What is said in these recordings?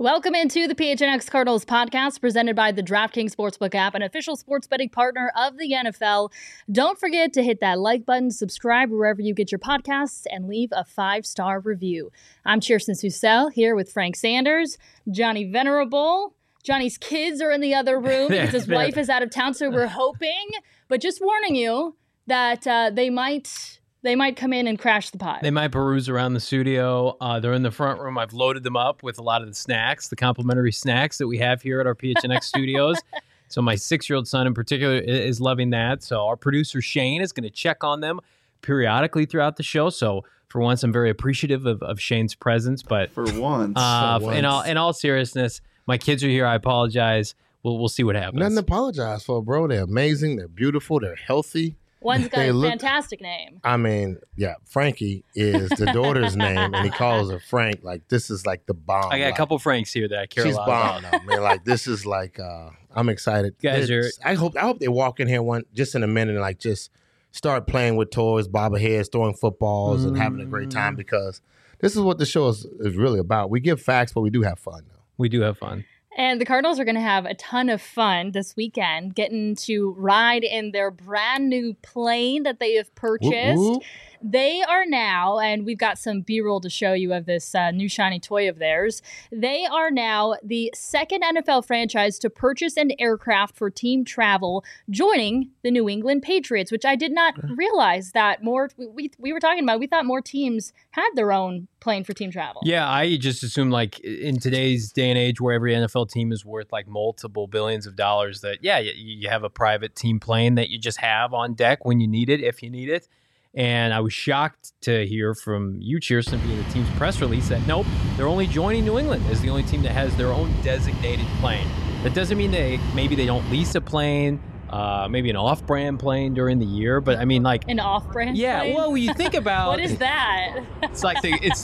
Welcome into the PHNX Cardinals podcast presented by the DraftKings Sportsbook app, an official sports betting partner of the NFL. Don't forget to hit that like button, subscribe wherever you get your podcasts, and leave a 5-star review. I'm Kirsten Susel here with Frank Sanders, Johnny Venerable. Johnny's kids are in the other room because his wife is out of town, so we're hoping, but just warning you that they might come in and crash the pod. They might peruse around the studio. They're in the front room. I've loaded them up with a lot of the snacks, the complimentary snacks that we have here at our PHNX studios. So my 6-year-old son in particular is loving that. So our producer Shane is going to check on them periodically throughout the show. So for once, I'm very appreciative of Shane's presence. But for once. in all seriousness, my kids are here. I apologize. We'll see what happens. Nothing to apologize for, bro. They're amazing. They're beautiful. They're healthy. One's got a fantastic name. I mean, yeah, Frankie is the daughter's name, and he calls her Frank. Like, this is like the bomb. I got a couple Franks here that I care a lot about. She's bomb, man. Like, this is like, I'm excited. Guys I hope they walk in here just in a minute and like just start playing with toys, bobbleheads, throwing footballs, and having a great time, because this is what the show is really about. We give facts, but we do have fun, though. We do have fun. And the Cardinals are going to have a ton of fun this weekend, getting to ride in their brand new plane that they have purchased. Woo-woo. They are now, and we've got some B-roll to show you of this new shiny toy of theirs. They are now the second NFL franchise to purchase an aircraft for team travel, joining the New England Patriots, which I did not realize that more. We were talking about, we thought more teams had their own plane for team travel. Yeah, I just assume, like, in today's day and age where every NFL team is worth like multiple billions of dollars, that, yeah, you have a private team plane that you just have on deck when you need it, if you need it. And I was shocked to hear from you, Kirsten, via the team's press release that, nope, they're only joining New England as the only team that has their own designated plane. That doesn't mean maybe they don't lease a plane, maybe an off-brand plane during the year, but I mean, like, an off-brand yeah, plane? well, when you think about what is that? It's like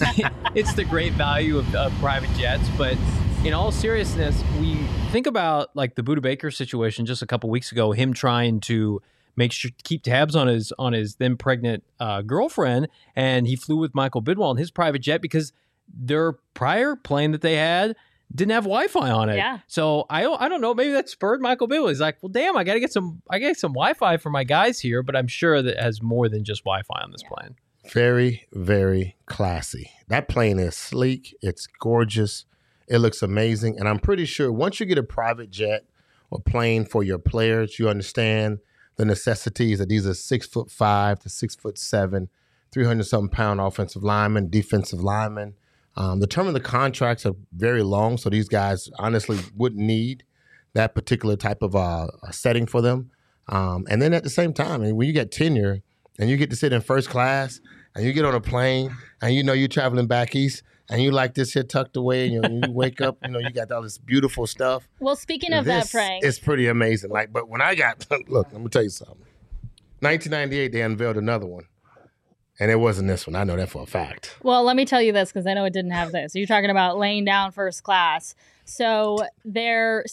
it's the great value of private jets. But in all seriousness, we think about like the Budda Baker situation just a couple weeks ago, him trying to keep tabs on his then pregnant girlfriend, and he flew with Michael Bidwell in his private jet because their prior plane that they had didn't have Wi-Fi on it. Yeah. So I don't know, maybe that spurred Michael Bidwell. He's like, well, damn, I gotta get some Wi-Fi for my guys here, but I'm sure that it has more than just Wi-Fi on this plane. Very, very classy. That plane is sleek. It's gorgeous. It looks amazing. And I'm pretty sure once you get a private jet or plane for your players, you understand the necessities that these are 6'5" to 6'7", 300-something pound offensive linemen, defensive linemen. The term of the contracts are very long, so these guys honestly wouldn't need that particular type of a setting for them. And then at the same time, when you get tenure and you get to sit in first class and you get on a plane and you know you're traveling back east and you like this here tucked away and you wake up, you got all this beautiful stuff. Well, speaking of that, Frank, it's pretty amazing. Like, but when I got look, let me tell you something. 1998, they unveiled another one, and it wasn't this one. I know that for a fact. Well, let me tell you this because I know it didn't have this. You're talking about laying down first class. So their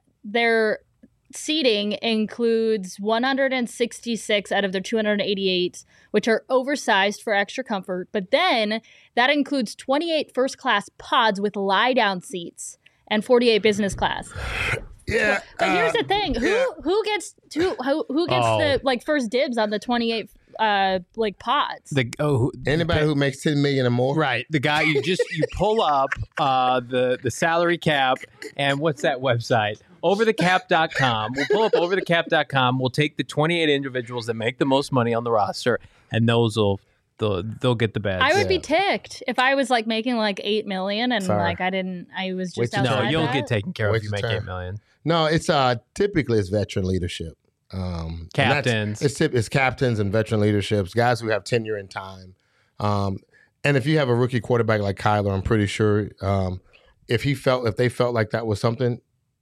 seating includes 166 out of their 288, which are oversized for extra comfort. But then that includes 28 first-class pods with lie-down seats and 48 business class. Yeah. But here's the thing: who gets the like first dibs on the 28 pods? Anybody who makes $10 million or more, right? The guy you pull up the salary cap, and what's that website? Overthecap.com. We'll pull up overthecap.com. We'll take the 28 individuals that make the most money on the roster, and they'll get the badge. I would be ticked if I was like making like $8 million and I was just outside. No, you'll that. get taken care of if you make $8 million. No, it's typically it's veteran leadership. Captains. It's captains and veteran leaderships, guys who have tenure in time. And if you have a rookie quarterback like Kyler, I'm pretty sure if they felt like that was something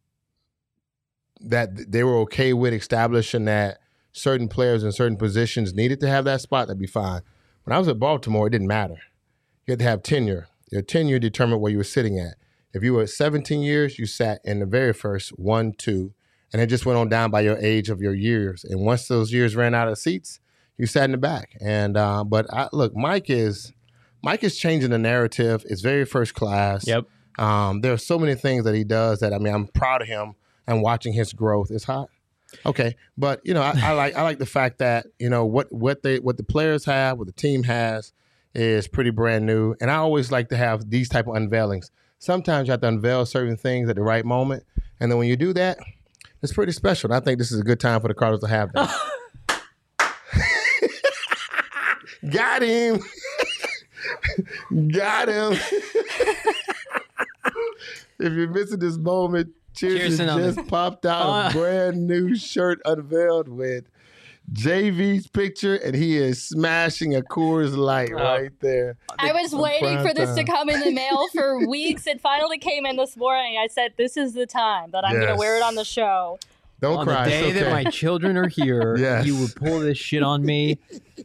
that they were okay with establishing that certain players in certain positions needed to have that spot, that'd be fine. When I was at Baltimore, it didn't matter. You had to have tenure. Your tenure determined where you were sitting at. If you were 17 years, you sat in the very first 1, 2, and it just went on down by your age of your years. And once those years ran out of seats, you sat in the back. And look, Mike is changing the narrative. It's very first class. Yep. There are so many things that he does that, I mean, I'm proud of him and watching his growth. It's hot. Okay. But, you know, I like the fact that, you know, what the players have, what the team has is pretty brand new. And I always like to have these type of unveilings. Sometimes you have to unveil certain things at the right moment. And then when you do that, it's pretty special. And I think this is a good time for the Cardinals to have that. Got him. Got him. If you're missing this moment, Cheerson just popped out a brand new shirt unveiled with JV's picture, and he is smashing a Coors Light right there. I was waiting for this to come in the mail for weeks. It finally came in this morning. I said, this is the time that I'm going to wear it on the show. Don't cry. On the day that my children are here, you would pull this shit on me.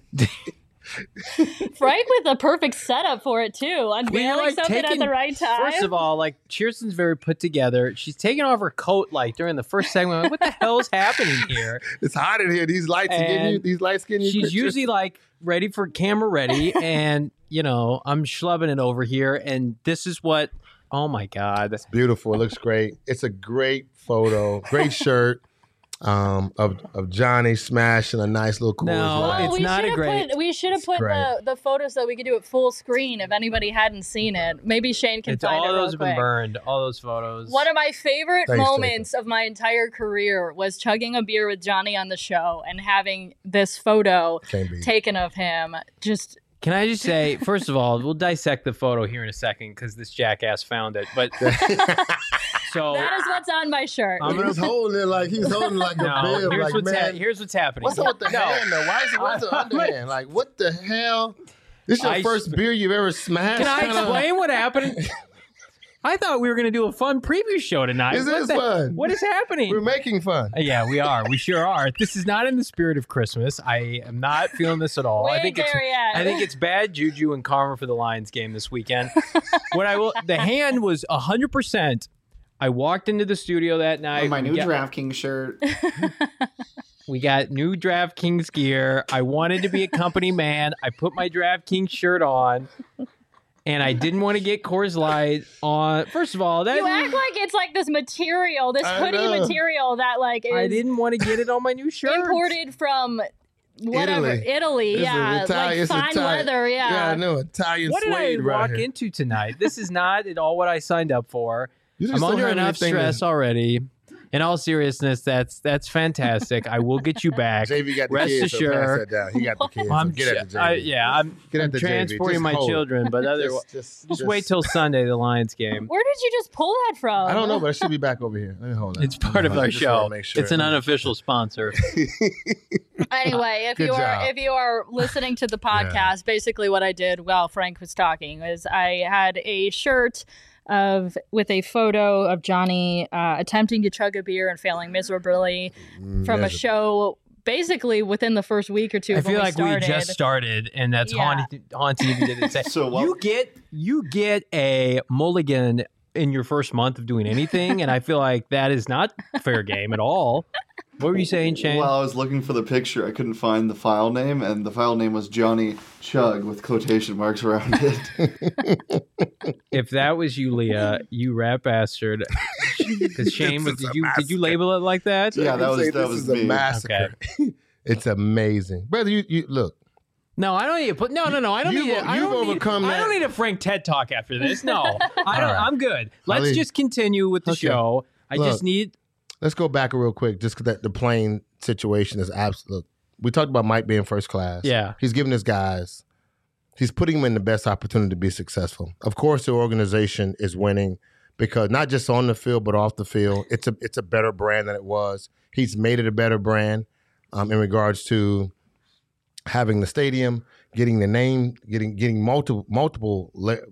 Frank with a perfect setup for it too. Unveiling something at the right time. First of all, like, Cheerson's very put together. She's taking off her coat like during the first segment. I'm like, what the hell's happening here? It's hot in here. These lights are getting you. These lights getting you. She's usually like ready for camera ready, and you know I'm schlubbing it over here. And this is what. Oh my God, that's beautiful. It looks great. It's a great photo. Great shirt. Of Johnny smashing a nice little Coors Light. It's not a great. We should have put the photos so we could do it full screen if anybody hadn't seen it. Maybe Shane can find it. All those have been burned. All those photos. One of my favorite moments of my entire career was chugging a beer with Johnny on the show and having this photo taken of him. Can I just say, first of all, we'll dissect the photo here in a second because this jackass found it. But so that is what's on my shirt. He's holding it like a bib. Here's what's happening. What's up with the hand though? What's the underhand? Like, what the hell? This is your first beer you've ever smashed? Can I explain what happened? I thought we were going to do a fun preview show tonight. This is fun. What is happening? We're making fun. Yeah, we are. We sure are. This is not in the spirit of Christmas. I am not feeling this at all. I think it's bad juju and karma for the Lions game this weekend. The hand was 100%. I walked into the studio that night. My new DraftKings shirt. We got new DraftKings gear. I wanted to be a company man. I put my DraftKings shirt on. And I didn't want to get Coors Light on. First of all, you act like it's like this material, this hoodie material that like is I didn't want to get it on my new shirt. Imported from Italy. Yeah, like fine leather. Yeah, I know, Italian. What did I walk into tonight? This is not at all what I signed up for. I'm under enough stress already. In all seriousness, that's fantastic. I will get you back. JV got the Rest kids, assured. So pass that down. He got the kids. So get at the JV. I'm transporting my children, but just wait till Sunday, the Lions game. Where did you just pull that from? I don't know, but I should be back over here. Let me hold on. It's part of our show. Sure. It's an unofficial sponsor. Anyway, if you are listening to the podcast, basically what I did while Frank was talking is I had a shirt with a photo of Johnny attempting to chug a beer and failing miserably from a show basically within the first week or two. I feel like we just started, and that's haunting if you didn't say. So you get a mulligan in your first month of doing anything, and I feel like that is not fair game at all. What were you saying, Shane? Well, I was looking for the picture. I couldn't find the file name, and the file name was Johnny Chug with quotation marks around it. If that was you, Leah, you rat bastard. Because Shane, did you label it like that? Yeah, that was me. A massacre. Okay. It's amazing, brother. You look. No, I don't need to put. No. I don't need. I don't need a Frank TED talk after this. No, I don't. I'm good. Let's just continue with the show. I just need. Let's go back real quick, just because the plane situation is absolute. We talked about Mike being first class. Yeah. He's giving his guys, he's putting them in the best opportunity to be successful. Of course, the organization is winning because not just on the field, but off the field. It's a better brand than it was. He's made it a better brand in regards to having the stadium, getting the name, getting multiple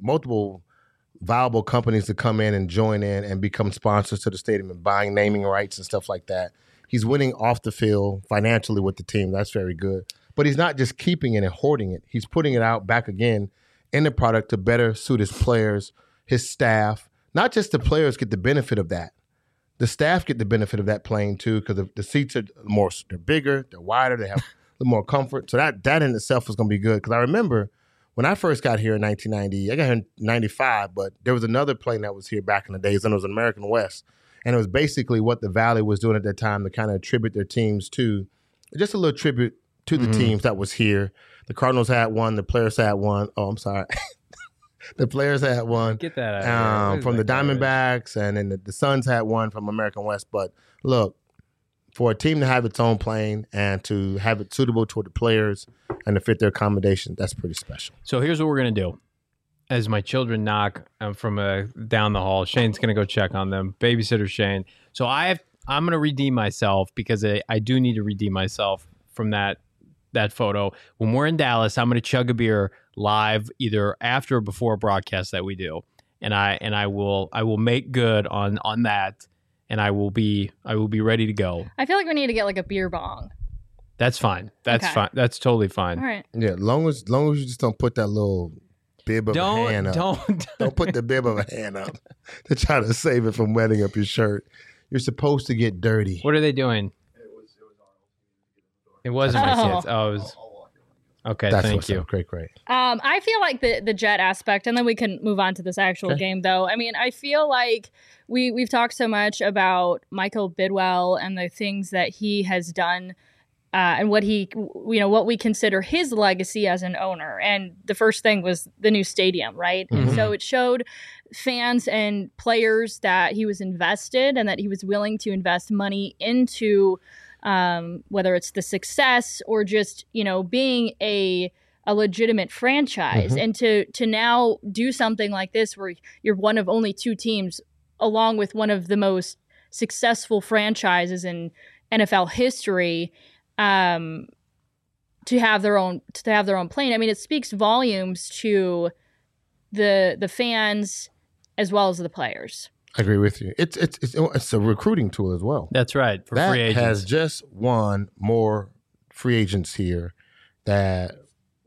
viable companies to come in and join in and become sponsors to the stadium and buying naming rights and stuff like that. He's winning off the field financially with the team. That's very good. But he's not just keeping it and hoarding it. He's putting it out back again in the product to better suit his players, his staff. Not just the players get the benefit of that. The staff get the benefit of that playing too because the seats are they're bigger, they're wider, they have a little more comfort. So that in itself is going to be good because I remember when I first got here in 1990, I got here in 95, but there was another plane that was here back in the days, and it was an American West. And it was basically what the Valley was doing at that time to kind of attribute their teams to, just a little tribute to the teams that was here. The Cardinals had one, the Players had one. Oh, I'm sorry. The Players had one. Get that out from the Diamondbacks, and then the Suns had one from American West. But look, for a team to have its own plane and to have it suitable toward the players and to fit their accommodation, that's pretty special. So here's what we're going to do. As my children knock from down the hall, Shane's going to go check on them. Babysitter Shane. So I'm going to redeem myself because I do need to redeem myself from that photo. When we're in Dallas, I'm going to chug a beer live either after or before a broadcast that we do. And I will make good on that. And I will be ready to go. I feel like we need to get like a beer bong. That's fine. That's Okay. fine. That's totally fine. All right. Yeah, long as you just don't put that little bib of a hand up. Don't put the bib of a hand up to try to save it from wetting up your shirt. You're supposed to get dirty. What are they doing? It wasn't my kids. Oh, it was. Okay, That's thank what's you. up. Great. I feel like the jet aspect, and then we can move on to this actual Okay. game, though. I mean, I feel like we've talked so much about Michael Bidwell and the things that he has done, and what we consider his legacy as an owner. And the first thing was the new stadium, right? And so it showed fans and players that he was invested and that he was willing to invest money into. Whether it's the success or just, being a legitimate franchise, and to now do something like this where you're one of only two teams along with one of the most successful franchises in NFL history, to have their own plane. I mean, it speaks volumes to the fans as well as the players. I agree with you. It's a recruiting tool as well. That's right. For that free agents. has just won more free agents here that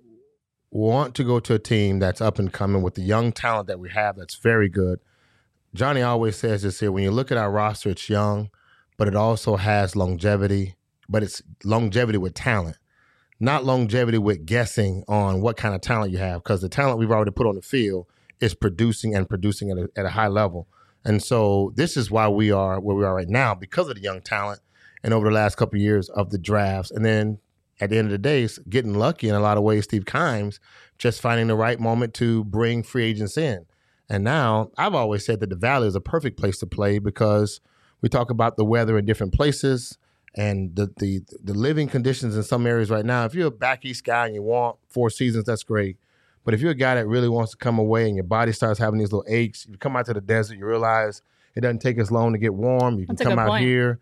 want to go to a team that's up and coming with the young talent that we have that's very good. Johnny always says this here, when you look at our roster, it's young, but it also has longevity, but it's longevity with talent, not longevity with guessing on what kind of talent you have, because the talent we've already put on the field is producing at a high level. And so this is why we are where we are right now, because of the young talent and over the last couple of years of the drafts. And then at the end of the day, it's getting lucky in a lot of ways, Steve Kimes, just finding the right moment to bring free agents in. And now I've always said that the Valley is a perfect place to play because we talk about the weather in different places and the living conditions in some areas right now. If you're a back east guy and you want 4 seasons, that's great. But if you're a guy that really wants to come away and your body starts having these little aches, you come out to the desert, you realize it doesn't take as long to get warm. You can come out here.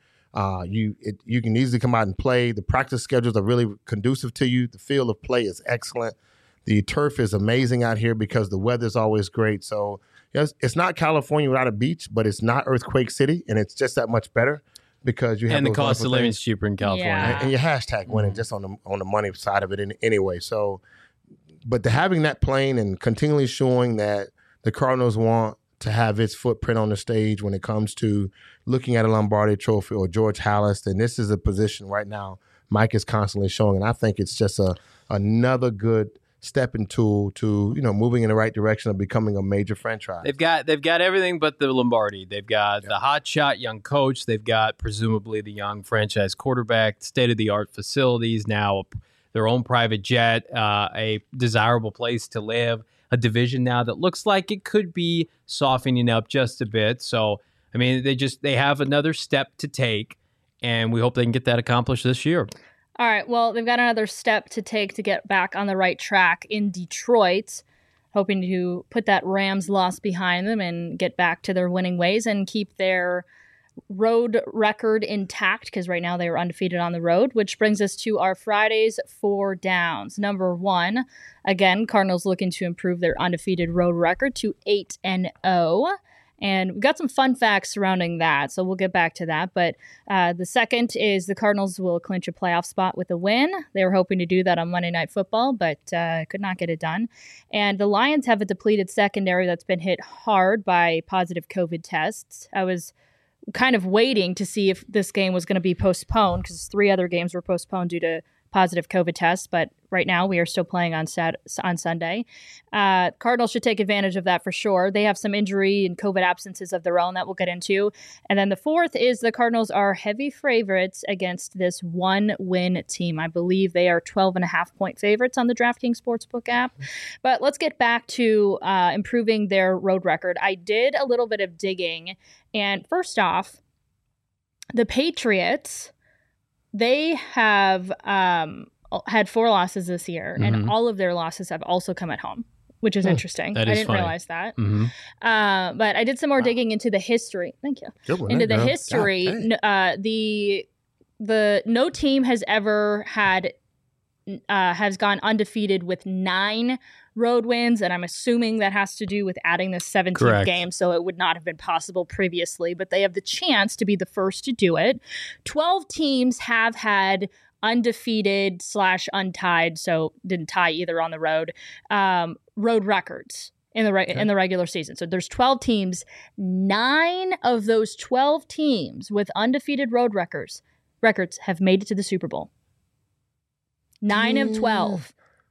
You can easily come out and play. The practice schedules are really conducive to you. The field of play is excellent. The turf is amazing out here because the weather is always great. So yes, it's not California without a beach, but it's not Earthquake City, and it's just that much better because you have and the those cost of wonderful living things. is cheaper in California. Yeah. And your hashtag winning just on the money side of it anyway. So, but to having that plane and continually showing that the Cardinals want to have its footprint on the stage when it comes to looking at a Lombardi Trophy or George Halas, and this is a position right now Mike is constantly showing, and I think it's just another good stepping tool to moving in the right direction of becoming a major franchise. They've got everything but the Lombardi. They've got the hotshot young coach. They've got presumably the young franchise quarterback, state-of-the-art facilities, now their own private jet, a desirable place to live, a division now that looks like it could be softening up just a bit. So, I mean, they have another step to take, and we hope they can get that accomplished this year. All right, well, they've got another step to take to get back on the right track in Detroit, hoping to put that Rams loss behind them and get back to their winning ways and keep their road record intact, because right now they are undefeated on the road, which brings us to our Friday's 4 downs. Number 1, again, Cardinals looking to improve their undefeated road record to 8-0. And we've got some fun facts surrounding that, so we'll get back to that. But the second is the Cardinals will clinch a playoff spot with a win. They were hoping to do that on Monday Night Football, but could not get it done. And the Lions have a depleted secondary that's been hit hard by positive COVID tests. I was kind of waiting to see if this game was going to be postponed because 3 other games were postponed due to positive COVID test, but right now we are still playing on Sunday. Cardinals should take advantage of that for sure. They have some injury and COVID absences of their own that we'll get into. And then the fourth is the Cardinals are heavy favorites against this 1-win team. I believe they are 12.5-point favorites on the DraftKings Sportsbook app. But let's get back to improving their road record. I did a little bit of digging, and first off, the Patriots, they have had 4 losses this year, and all of their losses have also come at home, which is interesting. I didn't realize that. But I did some more digging into the history. Thank you. Into the history. The no team has ever had has gone undefeated with 9 road wins, and I'm assuming that has to do with adding the 17th game, so it would not have been possible previously, but they have the chance to be the first to do it. 12 teams have had undefeated / untied, so didn't tie either on the road, road records in the regular season. So there's 12 teams. 9 of those 12 teams with undefeated road records have made it to the Super Bowl. 9 of 12.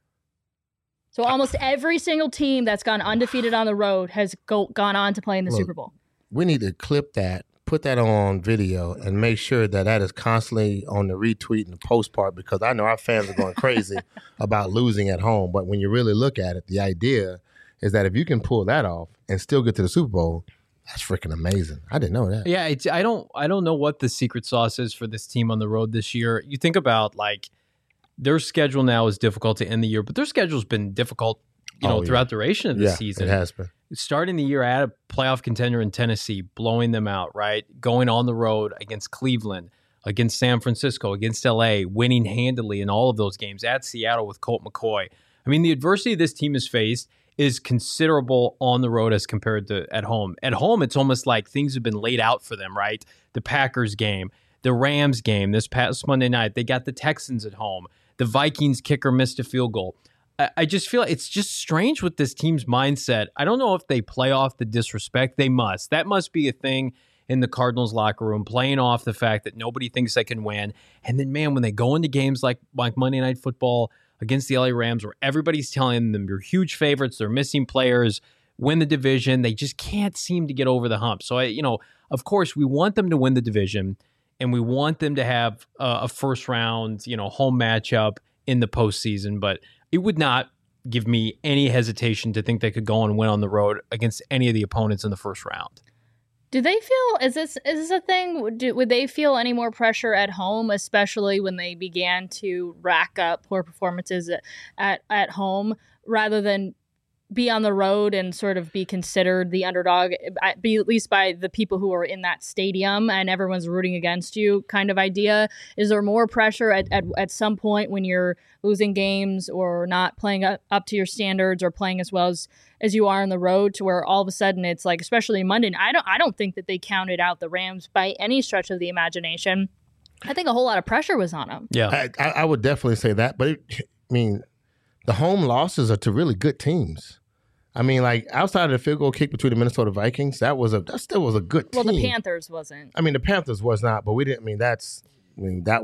So almost every single team that's gone undefeated on the road has gone on to play in the Super Bowl. We need to clip that, put that on video, and make sure that is constantly on the retweet and the post part, because I know our fans are going crazy about losing at home. But when you really look at it, the idea is that if you can pull that off and still get to the Super Bowl, that's freaking amazing. I didn't know that. Yeah, I don't know what the secret sauce is for this team on the road this year. You think about their schedule now is difficult to end the year, but their schedule's been difficult, throughout the duration of the season. It has been. Starting the year at a playoff contender in Tennessee, blowing them out, right? Going on the road against Cleveland, against San Francisco, against LA, winning handily in all of those games, at Seattle with Colt McCoy. I mean, the adversity this team has faced is considerable on the road as compared to at home. At home, it's almost like things have been laid out for them, right? The Packers game, the Rams game this past Monday night, they got the Texans at home. The Vikings kicker missed a field goal. I just feel it's just strange with this team's mindset. I don't know if they play off the disrespect. They must. That must be a thing in the Cardinals locker room, playing off the fact that nobody thinks they can win. And then, man, when they go into games like Monday Night Football against the LA Rams, where everybody's telling them they're huge favorites, they're missing players, win the division, they just can't seem to get over the hump. So, of course, we want them to win the division, and we want them to have a first round, home matchup in the postseason. But it would not give me any hesitation to think they could go and win on the road against any of the opponents in the first round. Do they feel, is this a thing? Would they feel any more pressure at home, especially when they began to rack up poor performances at home, rather than be on the road and sort of be considered the underdog, at least by the people who are in that stadium and everyone's rooting against you kind of idea? Is there more pressure at some point when you're losing games or not playing up to your standards or playing as well as you are on the road, to where all of a sudden it's like, especially Monday, I don't think that they counted out the Rams by any stretch of the imagination. I think a whole lot of pressure was on them. Yeah, I would definitely say that. But the home losses are to really good teams. Outside of the field goal kick between the Minnesota Vikings, that still was a good team. Well, the Panthers wasn't. The Panthers was not, but we didn't. We didn't have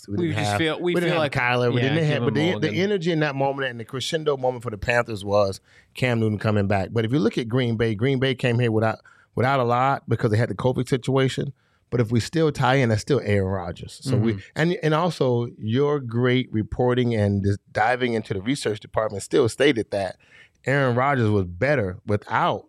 Kyler. We didn't have, but the energy in that moment and the crescendo moment for the Panthers was Cam Newton coming back. But if you look at Green Bay came here without a lot because they had the COVID situation. But if we still tie in, that's still Aaron Rodgers. So we and also your great reporting and just diving into the research department still stated that Aaron Rodgers was better without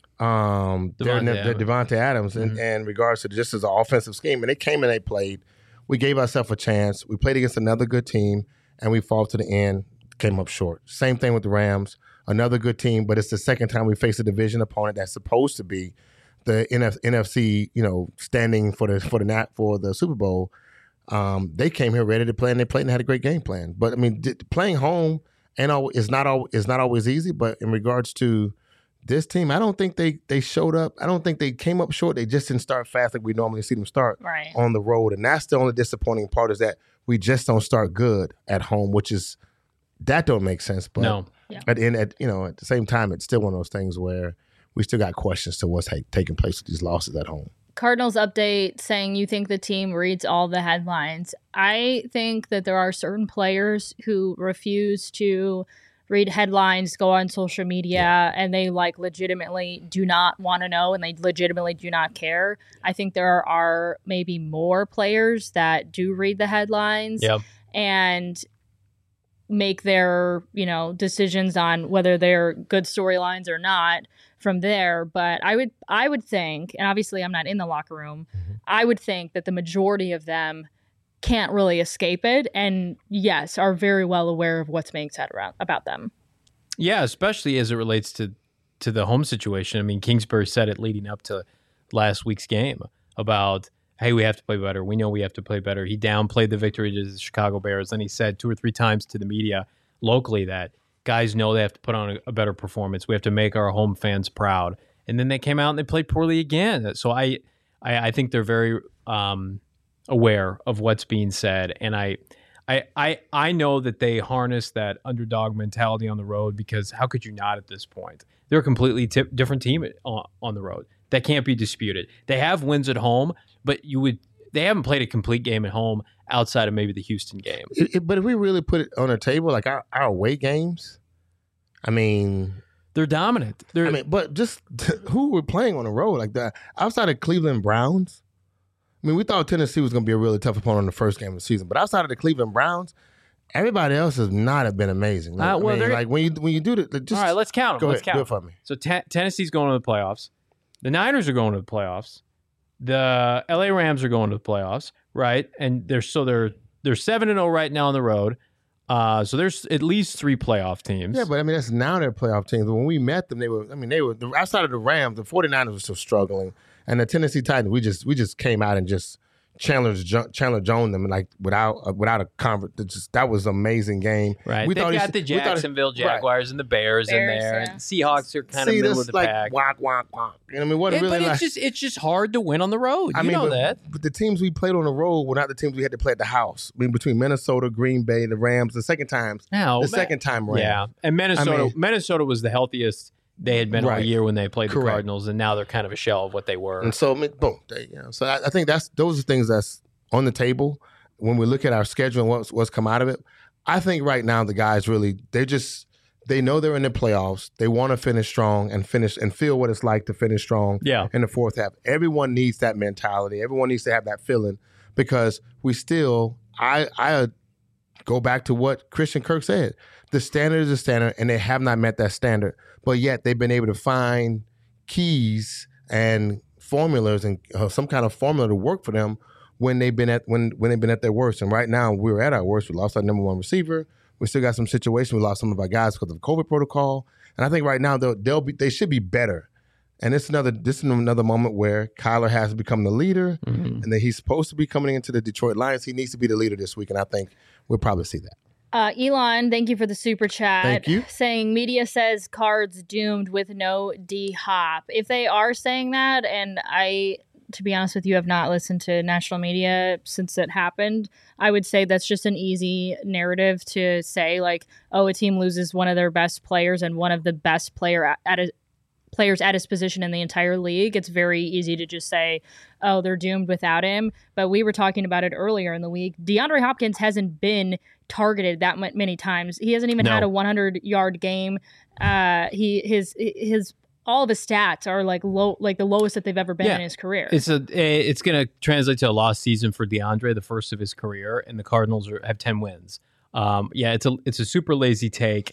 Devontae Adams in regards to just as an offensive scheme. And they came and they played. We gave ourselves a chance. We played against another good team, and we fought to the end, came up short. Same thing with the Rams, another good team, but it's the second time we face a division opponent that's supposed to be the NFC, standing for the Super Bowl. They came here ready to play, and they played and had a great game plan. But playing home is not always easy. But in regards to this team, I don't think they showed up. I don't think they came up short. They just didn't start fast like we normally see them start on the road, and that's the only disappointing part, is that we just don't start good at home, that don't make sense. But no. At the same time, it's still one of those things where we still got questions to what's taking place with these losses at home. Cardinals update saying you think the team reads all the headlines. I think that there are certain players who refuse to read headlines, go on social media, and they legitimately do not want to know, and they legitimately do not care. I think there are maybe more players that do read the headlines and make their, decisions on whether they're good storylines or not from there. But I would think, and obviously I'm not in the locker room, I would think that the majority of them can't really escape it, and yes, are very well aware of what's being said about them. Yeah, especially as it relates to the home situation. I mean, Kingsbury said it leading up to last week's game about, hey, we have to play better. We know we have to play better. He downplayed the victory to the Chicago Bears, and he said 2 or 3 times to the media locally that guys know they have to put on a better performance. We have to make our home fans proud. And then they came out and they played poorly again. So I think they're very aware of what's being said, and I know that they harness that underdog mentality on the road, because how could you not at this point? They're a completely different team on the road. That can't be disputed. They have wins at home, but they haven't played a complete game at home outside of maybe the Houston game. But if we really put it on a table, like our away games, I mean, they're dominant. But just who we're playing on the road like that outside of Cleveland Browns. I mean, we thought Tennessee was going to be a really tough opponent in the first game of the season, but outside of the Cleveland Browns, everybody else has not have been amazing. When you do that, just all right, let's count them. Go ahead, do it for me. So Tennessee's going to the playoffs. The Niners are going to the playoffs. The LA Rams are going to the playoffs, right? And they're 7-0 right now on the road. So there's at least 3 playoff teams. Yeah, but I mean, that's now their playoff teams. When we met them, they were outside of the Rams, the 49ers were still struggling. And the Tennessee Titans, we just came out and just Chandler Jones them without a conference. That was an amazing game. Right. They've got the Jacksonville Jaguars and the Bears in there. And Seahawks are kind of middle of the pack. Whack. You know what I mean? But it's just hard to win on the road. You know that. But the teams we played on the road were not the teams we had to play at the house. I mean, between Minnesota, Green Bay, the Rams, second time Rams. Yeah. And Minnesota was the healthiest they had been all year when they played the Cardinals, and now they're kind of a shell of what they were. And so, boom. So I think those are things that's on the table when we look at our schedule and what's come out of it. I think right now the guys really they know they're in the playoffs. They want to finish strong and feel what it's like to finish strong in the fourth half. Everyone needs that mentality. Everyone needs to have that feeling, because we still I go back to what Christian Kirk said. The standard is a standard, and they have not met that standard. But yet they've been able to find keys and formulas and some kind of formula to work for them when they've been at their worst. And right now we're at our worst. We lost our number 1 receiver. We still got some situations. We lost some of our guys because of the COVID protocol. And I think right now they should be better. And this is another moment where Kyler has become the leader, and that he's supposed to be coming into the Detroit Lions. He needs to be the leader this week, and I think we'll probably see that. Elon, thank you for the super chat. Thank you. Saying media says Cards doomed with no D-Hop. If they are saying that, and I, to be honest with you, have not listened to national media since it happened, I would say that's just an easy narrative to say, a team loses one of their best players and one of the best players at his position in the entire league. It's very easy to just say, oh, they're doomed without him. But we were talking about it earlier in the week. DeAndre Hopkins hasn't been targeted that many times. He hasn't even had a 100-yard game. His all of his stats are low, the lowest that they've ever been in his career. It's going to translate to a lost season for DeAndre, the first of his career, and the Cardinals have 10 wins. It's a super lazy take.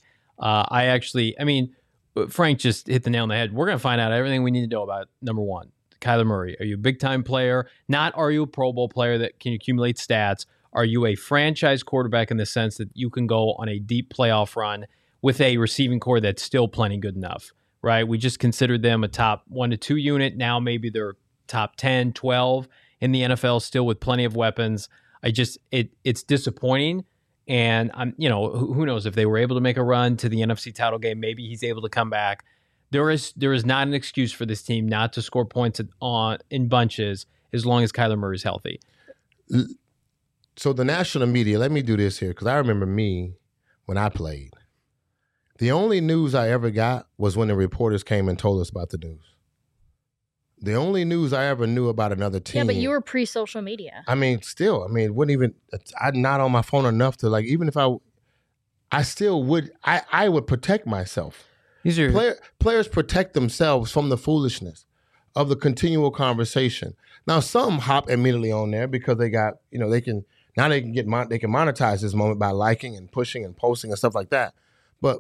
Frank just hit the nail on the head. We're going to find out everything we need to know about, number 1, Kyler Murray. Are you a big-time player? Not are you a Pro Bowl player that can accumulate stats? Are you a franchise quarterback in the sense that you can go on a deep playoff run with a receiving core that's still plenty good enough, right? We just considered them a top 1 to 2 unit. Now maybe they're top 10, 12 in the NFL, still with plenty of weapons. It's disappointing. And who knows if they were able to make a run to the NFC title game, maybe he's able to come back. There is not an excuse for this team not to score points in bunches as long as Kyler Murray is healthy. So the national media, let me do this here, because I remember me when I played. The only news I ever got was when the reporters came and told us about the news. The only news I ever knew about another team. Yeah, but you were pre-social media. I mean, still, it wouldn't even. I'm not on my phone enough to like. Even if I still would. I would protect myself. These are Players protect themselves from the foolishness of the continual conversation. Now, some hop immediately on there because they got, they can monetize this moment by liking and pushing and posting and stuff like that. But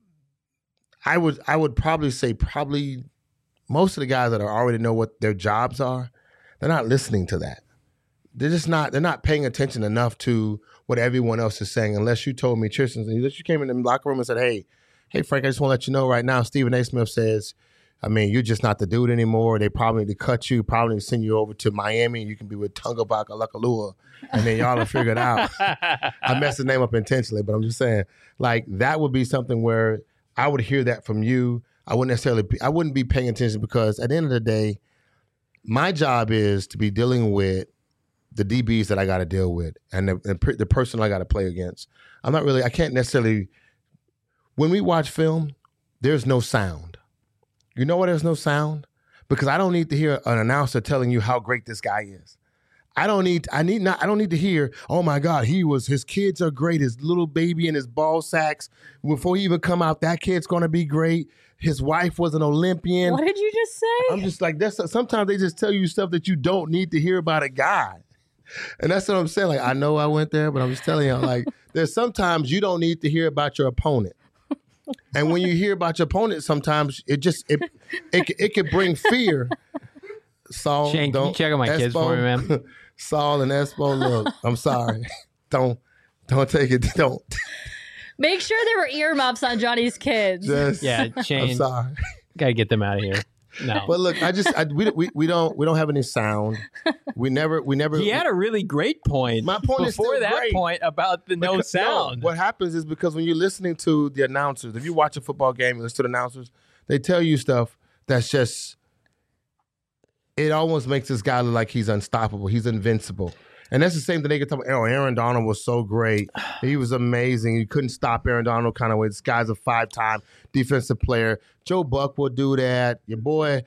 I would probably say most of the guys that already know what their jobs are, they're not listening to that. They're not paying attention enough to what everyone else is saying unless you told me, Tristan, unless you came in the locker room and said, hey, Frank, I just want to let you know right now, Stephen A. Smith says, you're just not the dude anymore. They probably need to cut you, probably need to send you over to Miami. You can be with Tunga Bakalua, and then y'all will figure it out. I messed his name up intentionally, but I'm just saying, like, that would be something where I would hear that from you. I wouldn't be paying attention because at the end of the day, my job is to be dealing with the DBs that I got to deal with and the person I got to play against. I can't necessarily, when we watch film, there's no sound. You know why there's no sound? Because I don't need to hear an announcer telling you how great this guy is. I don't need to hear, oh my God, his kids are great. His little baby and his ball sacks. Before he even come out, that kid's going to be great. His wife was an Olympian. What did you just say? I'm just like, sometimes they just tell you stuff that you don't need to hear about a guy. And that's what I'm saying. Like, I know I went there, but I'm just telling you, like, there's sometimes you don't need to hear about your opponent. And when you hear about your opponent, sometimes it could bring fear. Saul, Shane, can you check on my kids for me, man? Saul and Espo, look, I'm sorry. Don't take it. Don't. Make sure there were earmuffs on Johnny's kids. Shane. I'm sorry. Gotta get them out of here. No. But look, we don't have any sound. We never. He had a really great point. My point is before still that great. point about the no sound. No, what happens is because when you're listening to the announcers, if you watch a football game and listen to the announcers, they tell you stuff that's just. It almost makes this guy look like he's unstoppable. He's invincible. And that's the same thing they could talk about. Aaron Donald was so great. He was amazing. You couldn't stop Aaron Donald kind of way. This guy's a 5-time defensive player. Joe Buck will do that. Your boy,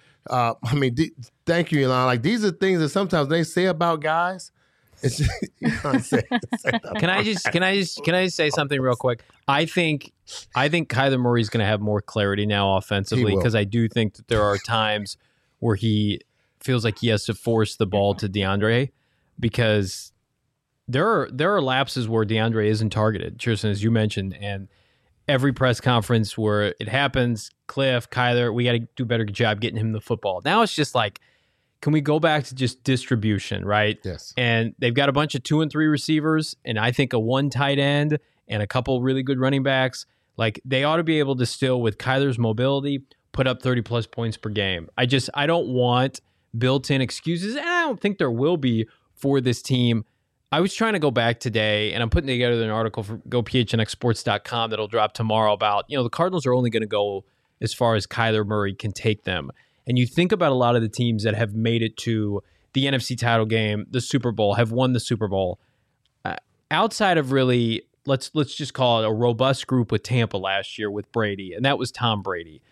thank you, Elon. Like, these are things that sometimes they say about guys. It's just, you can't say Can I just say something real quick? I think Kyler Murray's going to have more clarity now offensively because I do think that there are times where he feels like he has to force the ball to DeAndre because there are lapses where DeAndre isn't targeted, Tristan, as you mentioned, and every press conference where it happens, Cliff, Kyler, we got to do a better job getting him the football. Now it's just like, can we go back to just distribution, right? Yes. And they've got a bunch of 2 and 3 receivers, and I think a 1 tight end and a couple really good running backs. Like, they ought to be able to still, with Kyler's mobility, put up 30-plus points per game. I don't want built-in excuses, and I don't think there will be for this team. I was trying to go back today, and I'm putting together an article for GoPHNXSports.com that'll drop tomorrow about, the Cardinals are only going to go as far as Kyler Murray can take them. And you think about a lot of the teams that have made it to the NFC title game, the Super Bowl, have won the Super Bowl. Outside of really, let's just call it a robust group with Tampa last year with Brady, and that was Tom Brady.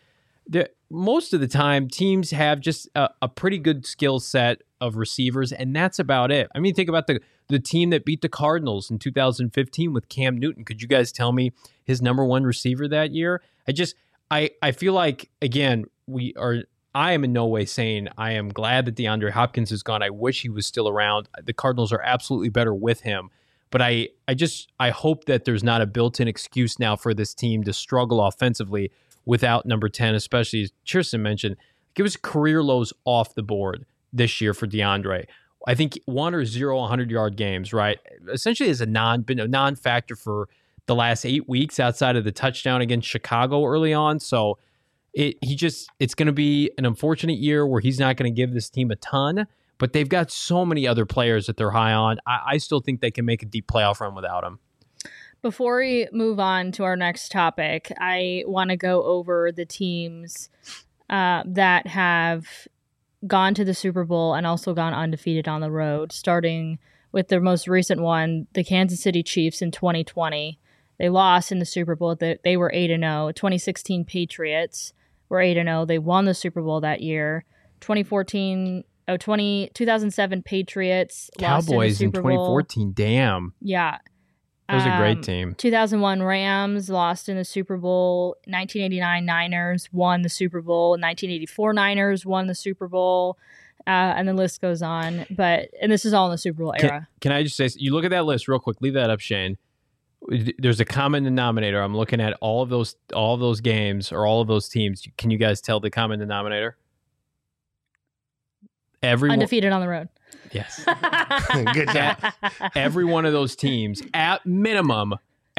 Most of the time, teams have just a pretty good skill set of receivers, and that's about it. I mean, think about the team that beat the Cardinals in 2015 with Cam Newton. Could you guys tell me his number one receiver that year? I feel like, again, I am in no way saying I am glad that DeAndre Hopkins is gone. I wish he was still around. The Cardinals are absolutely better with him. But I hope that there's not a built-in excuse now for this team to struggle offensively without number 10, especially as Tristan mentioned. It was career lows off the board this year for DeAndre. I think 1 or 0 100-yard games, right? Essentially has been a non-factor for the last 8 weeks outside of the touchdown against Chicago early on. So it's going to be an unfortunate year where he's not going to give this team a ton, but they've got so many other players that they're high on. I still think they can make a deep playoff run without him. Before we move on to our next topic, I want to go over the teams that have gone to the Super Bowl and also gone undefeated on the road, starting with their most recent one, the Kansas City Chiefs in 2020. They lost in the Super Bowl. They were 8-0. 2016 Patriots were 8-0. They won the Super Bowl that year. 2007 Patriots Cowboys lost in in the Super Bowl. 2014. Damn. Yeah. That was a great team. 2001 Rams lost in the Super Bowl. 1989 Niners won the Super Bowl. 1984 Niners won the Super Bowl. And the list goes on. And this is all in the Super Bowl era. Can I just say, you look at that list real quick. Leave that up, Shane. There's a common denominator. I'm looking at all of those games or all of those teams. Can you guys tell the common denominator? Everyone undefeated on the road. Yes. Good job. Every one of those teams, at minimum,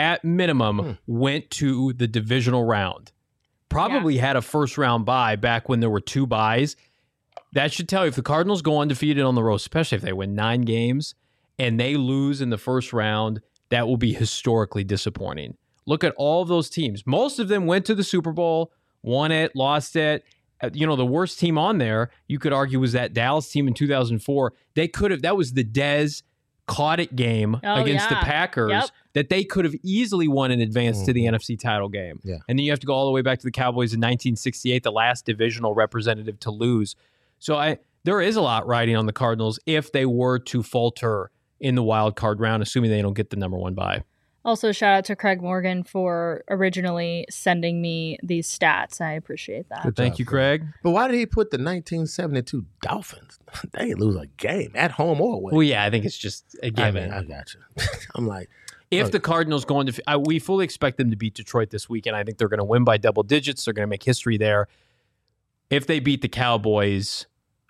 went to the divisional round. Probably had a first round bye back when there were 2 byes. That should tell you if the Cardinals go undefeated on the road, especially if they win 9 games and they lose in the first round, that will be historically disappointing. Look at all of those teams. Most of them went to the Super Bowl, won it, lost it. The worst team on there, you could argue, was that Dallas team in 2004. That was the Dez caught it game against the Packers that they could have easily won in advance to the NFC title game. Yeah. And then you have to go all the way back to the Cowboys in 1968, the last divisional representative to lose. So there is a lot riding on the Cardinals if they were to falter in the wild card round, assuming they don't get the number 1 bye. Also, shout out to Craig Morgan for originally sending me these stats. I appreciate that. Good Thank job, you, Craig. But why did he put the 1972 Dolphins? They didn't lose a game at home or away. Well, yeah, I think it's just a given. I got you. I'm like, if the Cardinals go into, we fully expect them to beat Detroit this weekend. I think they're going to win by double digits. They're going to make history there. If they beat the Cowboys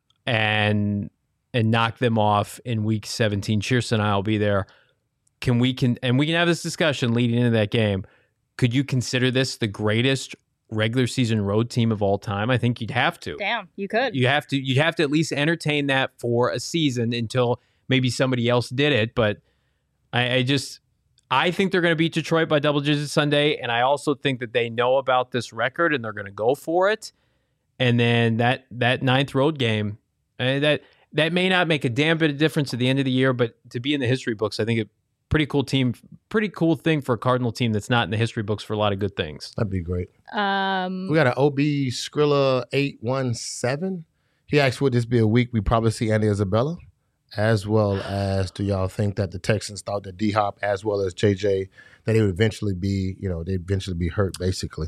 and knock them off in Week 17, Cheerson and I will be there. We can have this discussion leading into that game. Could you consider this the greatest regular season road team of all time? I think you'd have to. Damn, you could. You'd have to at least entertain that for a season until maybe somebody else did it. But I think they're going to beat Detroit by double digits Sunday, and I also think that they know about this record and they're going to go for it. And then that 9th road game, that may not make a damn bit of difference at the end of the year, but to be in the history books, I think it. Pretty cool thing for a Cardinal team that's not in the history books for a lot of good things. That'd be great. We got an OB Skrilla 817. He asked, would this be a week we probably see Andy Isabella? As well as, do y'all think that the Texans thought that D-Hop as well as JJ, that they would eventually be, they'd eventually be hurt, basically?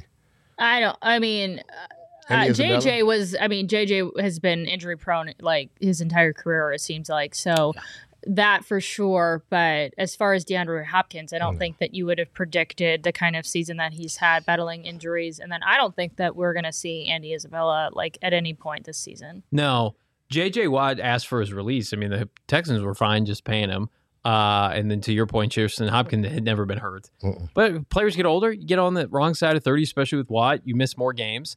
JJ has been injury prone like his entire career, it seems like. So that for sure. But as far as DeAndre Hopkins, I don't think that you would have predicted the kind of season that he's had battling injuries. And then I don't think that we're going to see Andy Isabella like at any point this season. No. J.J. Watt asked for his release. I mean, the Texans were fine just paying him. And then to your point, Cheerson Hopkins had never been hurt. But players get older. You get on the wrong side of 30, especially with Watt. You miss more games.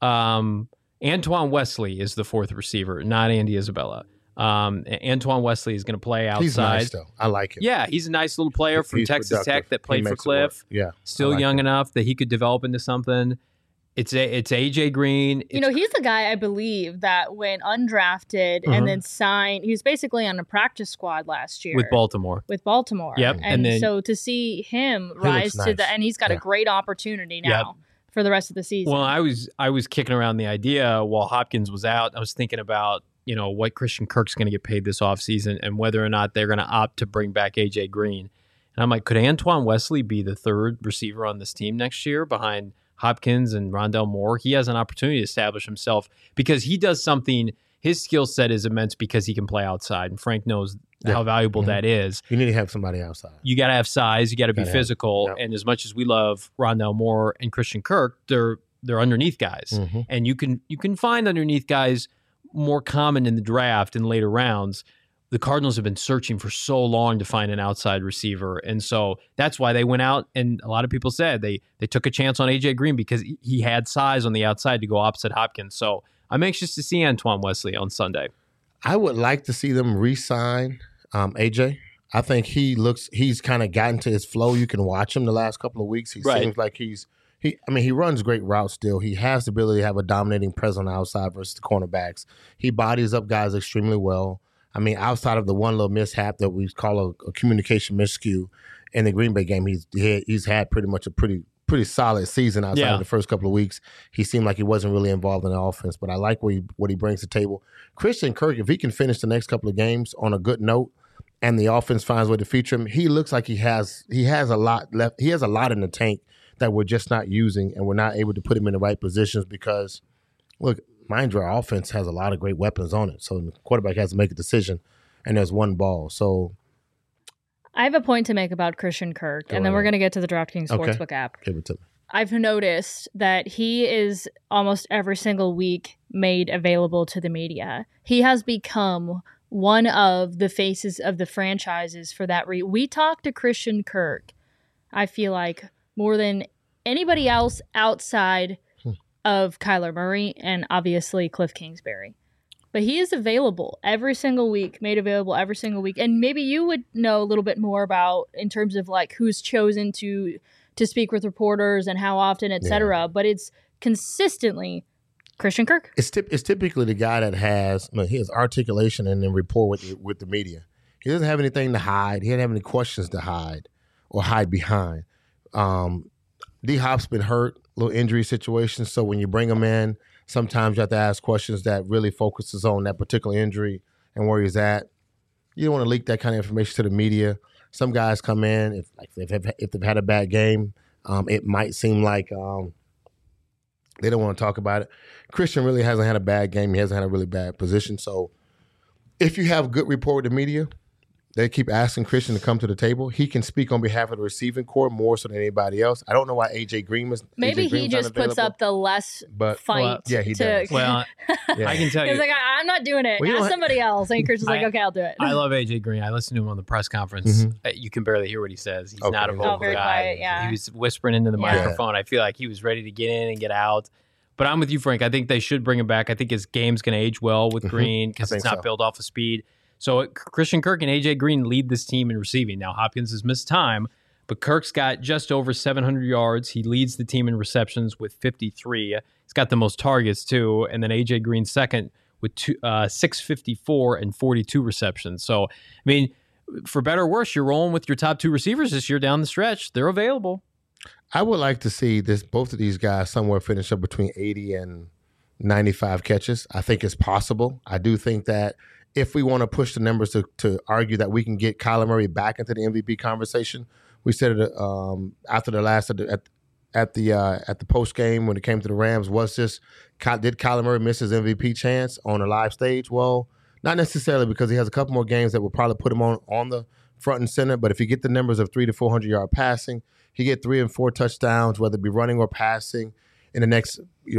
Antoine Wesley is the 4th receiver, not Andy Isabella. Antoine Wesley is going to play outside. He's nice, though. I like him. Yeah, he's a nice little player from Texas productive. Tech that played for Cliff. Yeah, still young enough that he could develop into something. It's AJ Green. He's the guy I believe that went undrafted and then signed. He was basically on a practice squad last year with Baltimore. Yep. And then, so to see him rise to the, and he's got a great opportunity now for the rest of the season. Well, I was kicking around the idea while Hopkins was out. I was thinking about what Christian Kirk's going to get paid this offseason and whether or not they're going to opt to bring back AJ Green. And I'm like, could Antoine Wesley be the 3rd receiver on this team next year behind Hopkins and Rondell Moore? He has an opportunity to establish himself because he does something. His skill set is immense because he can play outside, and Frank knows how valuable that is. You need to have somebody outside. You got to have size. You got to be physical. And as much as we love Rondell Moore and Christian Kirk, they're underneath guys, and you can find underneath guys more common in the draft in later rounds. The Cardinals have been searching for so long to find an outside receiver. And so that's why they went out, and a lot of people said they took a chance on AJ Green because he had size on the outside to go opposite Hopkins. So I'm anxious to see Antoine Wesley on Sunday. I would like to see them re-sign AJ. I think he's kind of gotten to his flow. You can watch him the last couple of weeks. He seems like he runs great routes still. He has the ability to have a dominating presence on the outside versus the cornerbacks. He bodies up guys extremely well. I mean, outside of the one little mishap that we call a communication miscue in the Green Bay game, he's had pretty much a pretty pretty solid season outside of the first couple of weeks. He seemed like he wasn't really involved in the offense, but I like what he brings to the table. Christian Kirk, if he can finish the next couple of games on a good note and the offense finds a way to feature him, he looks like he has a lot left. He has a lot in the tank that we're just not using, and we're not able to put him in the right positions because, look, mind you, our offense has a lot of great weapons on it. So the quarterback has to make a decision, and there's one ball. So I have a point to make about Christian Kirk, and then we're going to get to the DraftKings Sportsbook app. Give it to me. I've noticed that he is almost every single week made available to the media. He has become one of the faces of the franchises for that reason. We talk to Christian Kirk, I feel like, more than anybody else outside of Kyler Murray and obviously Cliff Kingsbury. But he is available every single week, made available every single week. And maybe you would know a little bit more about in terms of like who's chosen to speak with reporters and how often, et cetera. But it's consistently Christian Kirk. It's typically the guy that has articulation and then rapport with the media. He doesn't have anything to hide. He doesn't have any questions to hide or hide behind. D-Hop's been hurt, little injury situation. So when you bring him in, sometimes you have to ask questions that really focuses on that particular injury and where he's at. You don't want to leak that kind of information to the media. Some guys come in, if they've had a bad game, it might seem like they don't want to talk about it. Christian really hasn't had a bad game. He hasn't had a really bad position. So if you have good rapport with the media, they keep asking Christian to come to the table. He can speak on behalf of the receiving corps more so than anybody else. I don't know why A.J. Green was. Maybe he just puts up the less fight. Well, yeah, he does. Well, I can tell you. He's like, I'm not doing it. Ask somebody else. And Christian's like, okay, I'll do it. I love A.J. Green. I listened to him on the press conference. Mm-hmm. You can barely hear what he says. He's not a vocal very guy. Quiet, yeah. He was whispering into the microphone. I feel like he was ready to get in and get out. But I'm with you, Frank. I think they should bring him back. I think his game's going to age well with Green because it's not built off of speed. So Christian Kirk and A.J. Green lead this team in receiving. Now, Hopkins has missed time, but Kirk's got just over 700 yards. He leads the team in receptions with 53. He's got the most targets, too. And then A.J. Green second with 654 and 42 receptions. So, I mean, for better or worse, you're rolling with your top two receivers this year down the stretch. They're available. I would like to see both of these guys somewhere finish up between 80 and 95 catches. I think it's possible. I do think that if we want to push the numbers to argue that we can get Kyler Murray back into the MVP conversation, we said it after the last at the post game when it came to the Rams. Did Kyler Murray miss his MVP chance on a live stage? Well, not necessarily, because he has a couple more games that will probably put him on the front and center. But if you get the numbers of 300 to 400 yard passing, he get 3 and 4 touchdowns, whether it be running or passing, in the next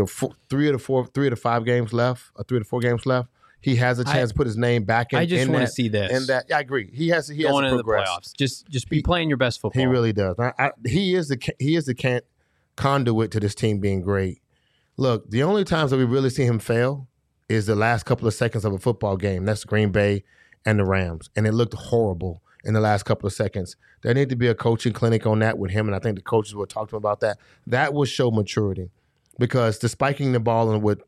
3 to 5 games left, or 3 to 4 games left. He has a chance to put his name back in. I just want to see this. And that, I agree. He has to progress. The playoffs. Just be playing your best football. He really does. He is the conduit to this team being great. Look, the only times that we really see him fail is the last couple of seconds of a football game. That's Green Bay and the Rams. And it looked horrible in the last couple of seconds. There need to be a coaching clinic on that with him, and I think the coaches will talk to him about that. That will show maturity, because the spiking the ball and with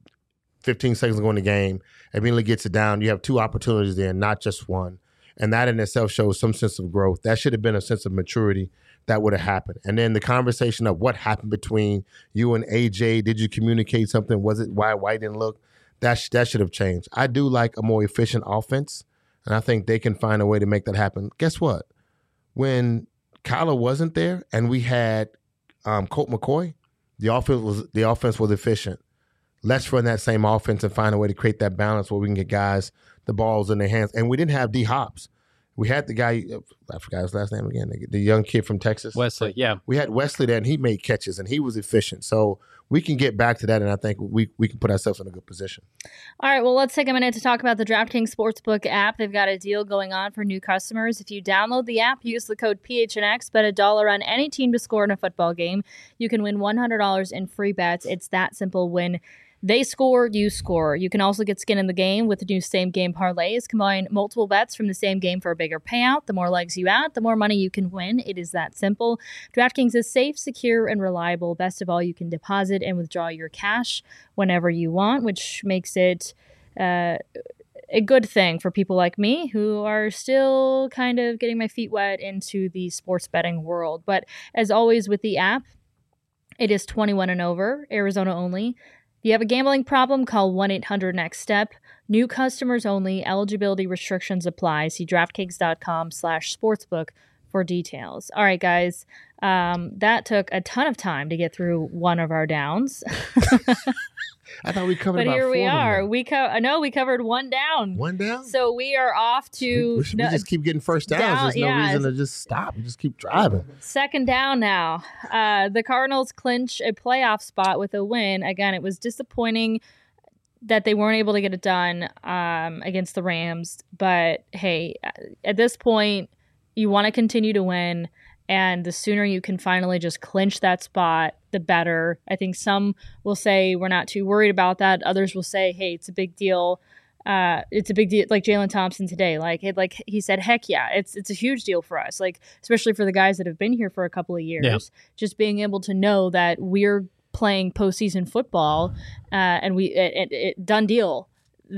15 seconds to go in the game, immediately gets it down. You have 2 opportunities there, not just one. And that in itself shows some sense of growth. That should have been a sense of maturity that would have happened. And then the conversation of what happened between you and AJ, did you communicate something? Was it why White didn't look? That should have changed. I do like a more efficient offense, and I think they can find a way to make that happen. Guess what? When Kyler wasn't there and we had Colt McCoy, the offense was efficient. Let's run that same offense and find a way to create that balance where we can get guys the balls in their hands. And we didn't have D-Hops. We had the guy, I forgot his last name again, the young kid from Texas. Wesley, yeah. We had Wesley there, and he made catches, and he was efficient. So we can get back to that, and I think we can put ourselves in a good position. All right, well, let's take a minute to talk about the DraftKings Sportsbook app. They've got a deal going on for new customers. If you download the app, use the code PHNX, bet $1 on any team to score in a football game. You can win $100 in free bets. It's that simple. When they score, you score. You can also get skin in the game with the new same-game parlays. Combine multiple bets from the same game for a bigger payout. The more legs you add, the more money you can win. It is that simple. DraftKings is safe, secure, and reliable. Best of all, you can deposit and withdraw your cash whenever you want, which makes it a good thing for people like me who are still kind of getting my feet wet into the sports betting world. But as always with the app, It is 21 and over, Arizona only. If you have a gambling problem, call 1-800-NEXT-STEP. New customers only. Eligibility restrictions apply. See DraftKings.com/sportsbook for details. All right, guys. That took a ton of time to get through one of our downs. I thought we covered but about here we 4 of them are. now. We covered one down. One down? So we are off to... We just keep getting first downs. There's no reason to just stop. We just keep driving. Second down now. The Cardinals clinch a playoff spot with a win. Again, it was disappointing that they weren't able to get it done against the Rams. But, hey, at this point, you want to continue to win. And the sooner you can finally just clinch that spot, the better. I think some will say we're not too worried about that. Others will say, hey, it's a big deal. It's a big deal. Like Jalen Thompson today, like he said, heck yeah, it's a huge deal for us. Like, especially for the guys that have been here for a couple of years, just being able to know that we're playing postseason football, and it done deal.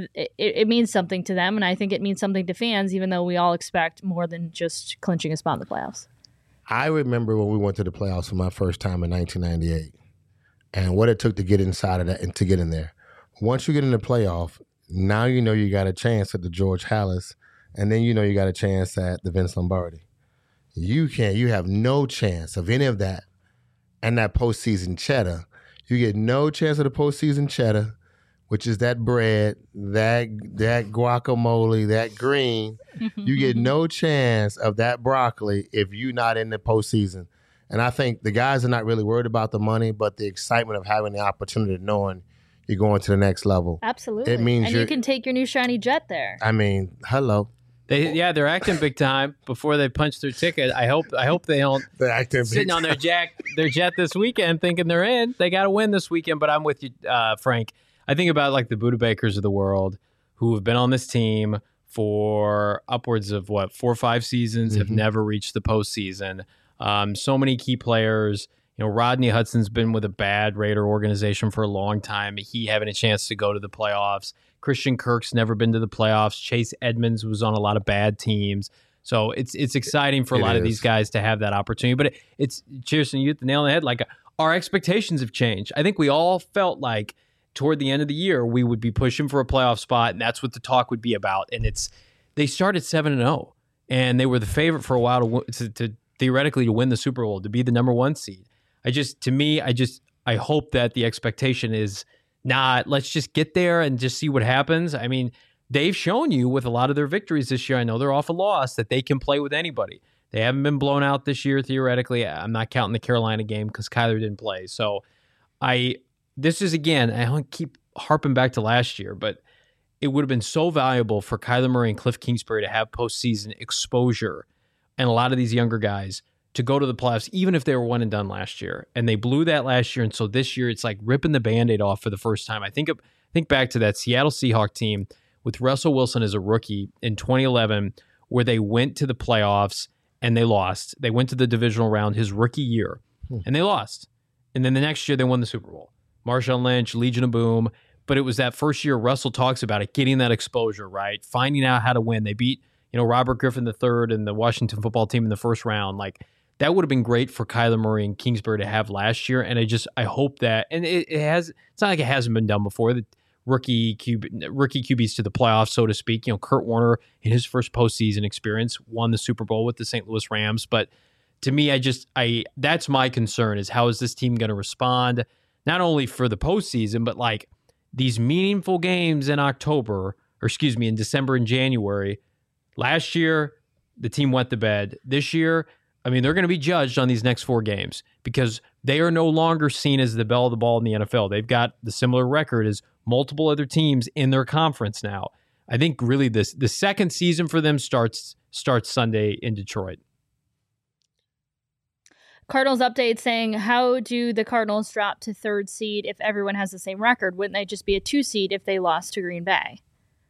It means something to them, and I think it means something to fans, even though we all expect more than just clinching a spot in the playoffs. I remember when we went to the playoffs for my first time in 1998 and what it took to get inside of that and to get in there. Once you get in the playoff, now you know you got a chance at the George Halas, and then you know you got a chance at the Vince Lombardi. You have no chance of any of that and that postseason cheddar. You get no chance of the postseason cheddar, which is that bread, that guacamole, that green. You get no chance of that broccoli if you're not in the postseason. And I think the guys are not really worried about the money, but the excitement of having the opportunity of knowing you're going to the next level. Absolutely. It means you can take your new shiny jet there. I mean, hello. They're acting big time before they punch their ticket. I hope they don't sitting on their jet this weekend thinking they're in. They got to win this weekend. But I'm with you, Frank. I think about like the Buda Bakers of the world who have been on this team for upwards of 4 or 5 seasons, have never reached the postseason. So many key players. You know, Rodney Hudson's been with a bad Raider organization for a long time. He having a chance to go to the playoffs. Christian Kirk's never been to the playoffs. Chase Edmonds was on a lot of bad teams. So it's exciting for a lot of these guys to have that opportunity. But it's Cheerson, you hit the nail on the head. Like, our expectations have changed. I think we all felt like toward the end of the year, we would be pushing for a playoff spot, and that's what the talk would be about. And they started 7-0, and they were the favorite for a while to theoretically to win the Super Bowl, to be the number 1 seed. I hope that the expectation is not, let's just get there and just see what happens. I mean, they've shown you with a lot of their victories this year, I know they're off a loss, that they can play with anybody. They haven't been blown out this year, theoretically. I'm not counting the Carolina game because Kyler didn't play. So this is, again, I don't keep harping back to last year, but it would have been so valuable for Kyler Murray and Cliff Kingsbury to have postseason exposure and a lot of these younger guys to go to the playoffs, even if they were one and done last year. And they blew that last year. And so this year, it's like ripping the Band-Aid off for the first time. I think back to that Seattle Seahawks team with Russell Wilson as a rookie in 2011, where they went to the playoffs and they lost. They went to the divisional round his rookie year and they lost. And then the next year, they won the Super Bowl. Marshawn Lynch, Legion of Boom. But it was that first year Russell talks about it, getting that exposure, right? Finding out how to win. They beat, Robert Griffin III and the Washington football team in the first round. Like, that would have been great for Kyler Murray and Kingsbury to have last year. And I hope that, and it's not like it hasn't been done before. The rookie QBs to the playoffs, so to speak. Kurt Warner in his first postseason experience won the Super Bowl with the St. Louis Rams. But to me, that's my concern, is how is this team going to respond? Not only for the postseason, but like these meaningful games in in December and January. Last year, the team went to bed. This year, they're going to be judged on these next 4 games because they are no longer seen as the belle of the ball in the NFL. They've got the similar record as multiple other teams in their conference now. I think really the second season for them starts Sunday in Detroit. Cardinals update saying, how do the Cardinals drop to 3rd seed if everyone has the same record? Wouldn't they just be a 2 seed if they lost to Green Bay?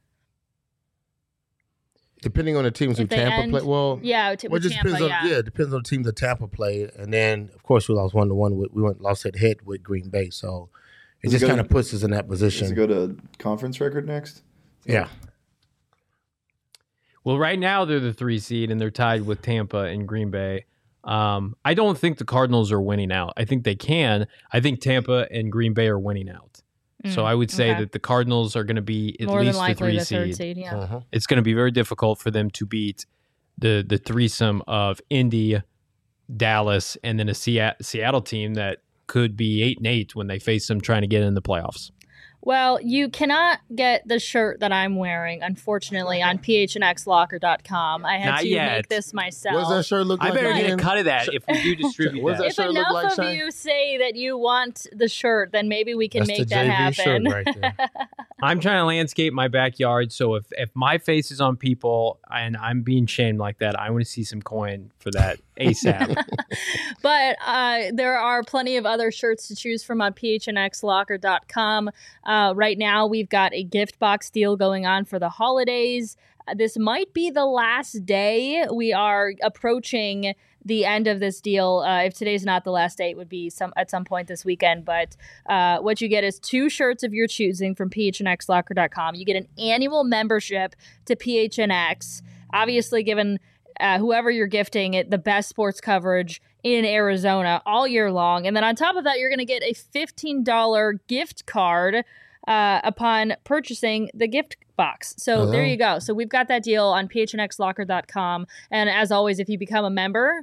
Depending on the teams who Tampa play. Well, yeah, it just Tampa, depends on it depends on the teams that Tampa played, and then of course we lost 1-1. We lost head with Green Bay, so it just kind of puts us in that position. Does it go to conference record next? Yeah. Well, right now they're the 3 seed and they're tied with Tampa and Green Bay. I don't think the Cardinals are winning out. I think they can. I think Tampa and Green Bay are winning out. So I would say that the Cardinals are going to be at more least than likely the the third seed. seed. Yeah. It's going to be very difficult for them to beat the threesome of Indy, Dallas, and then a Seattle team that could be 8-8 when they face them trying to get in the playoffs. Well, you cannot get the shirt that I'm wearing, unfortunately, on phnxlocker.com. I had Not to yet. make this myself. What does that shirt look I like? better get a again? cut of that if we do distribute What does that. that If shirt look enough like, of Shane? you say that you want the shirt, then maybe we can That's make the that JV happen. shirt right there. I'm trying to landscape my backyard, so if my face is on people and I'm being shamed like that, I want to see some coin for that ASAP. But there are plenty of other shirts to choose from on phnxlocker.com. Right now, we've got a gift box deal going on for the holidays. This might be the last day. We are approaching the end of this deal. If today's not the last day, it would be at some point this weekend. But what you get is 2 shirts of your choosing from phnxlocker.com. You get an annual membership to PHNX. Obviously, given whoever you're gifting it, the best sports coverage in Arizona all year long. And then on top of that, you're going to get a $15 gift card upon purchasing the gift box. So there you go. So we've got that deal on phnxlocker.com. And as always, if you become a member,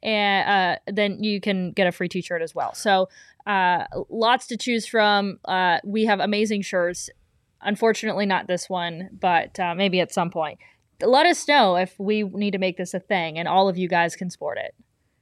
then you can get a free t-shirt as well. So lots to choose from. We have amazing shirts. Unfortunately, not this one, but maybe at some point. Let us know if we need to make this a thing, and all of you guys can sport it.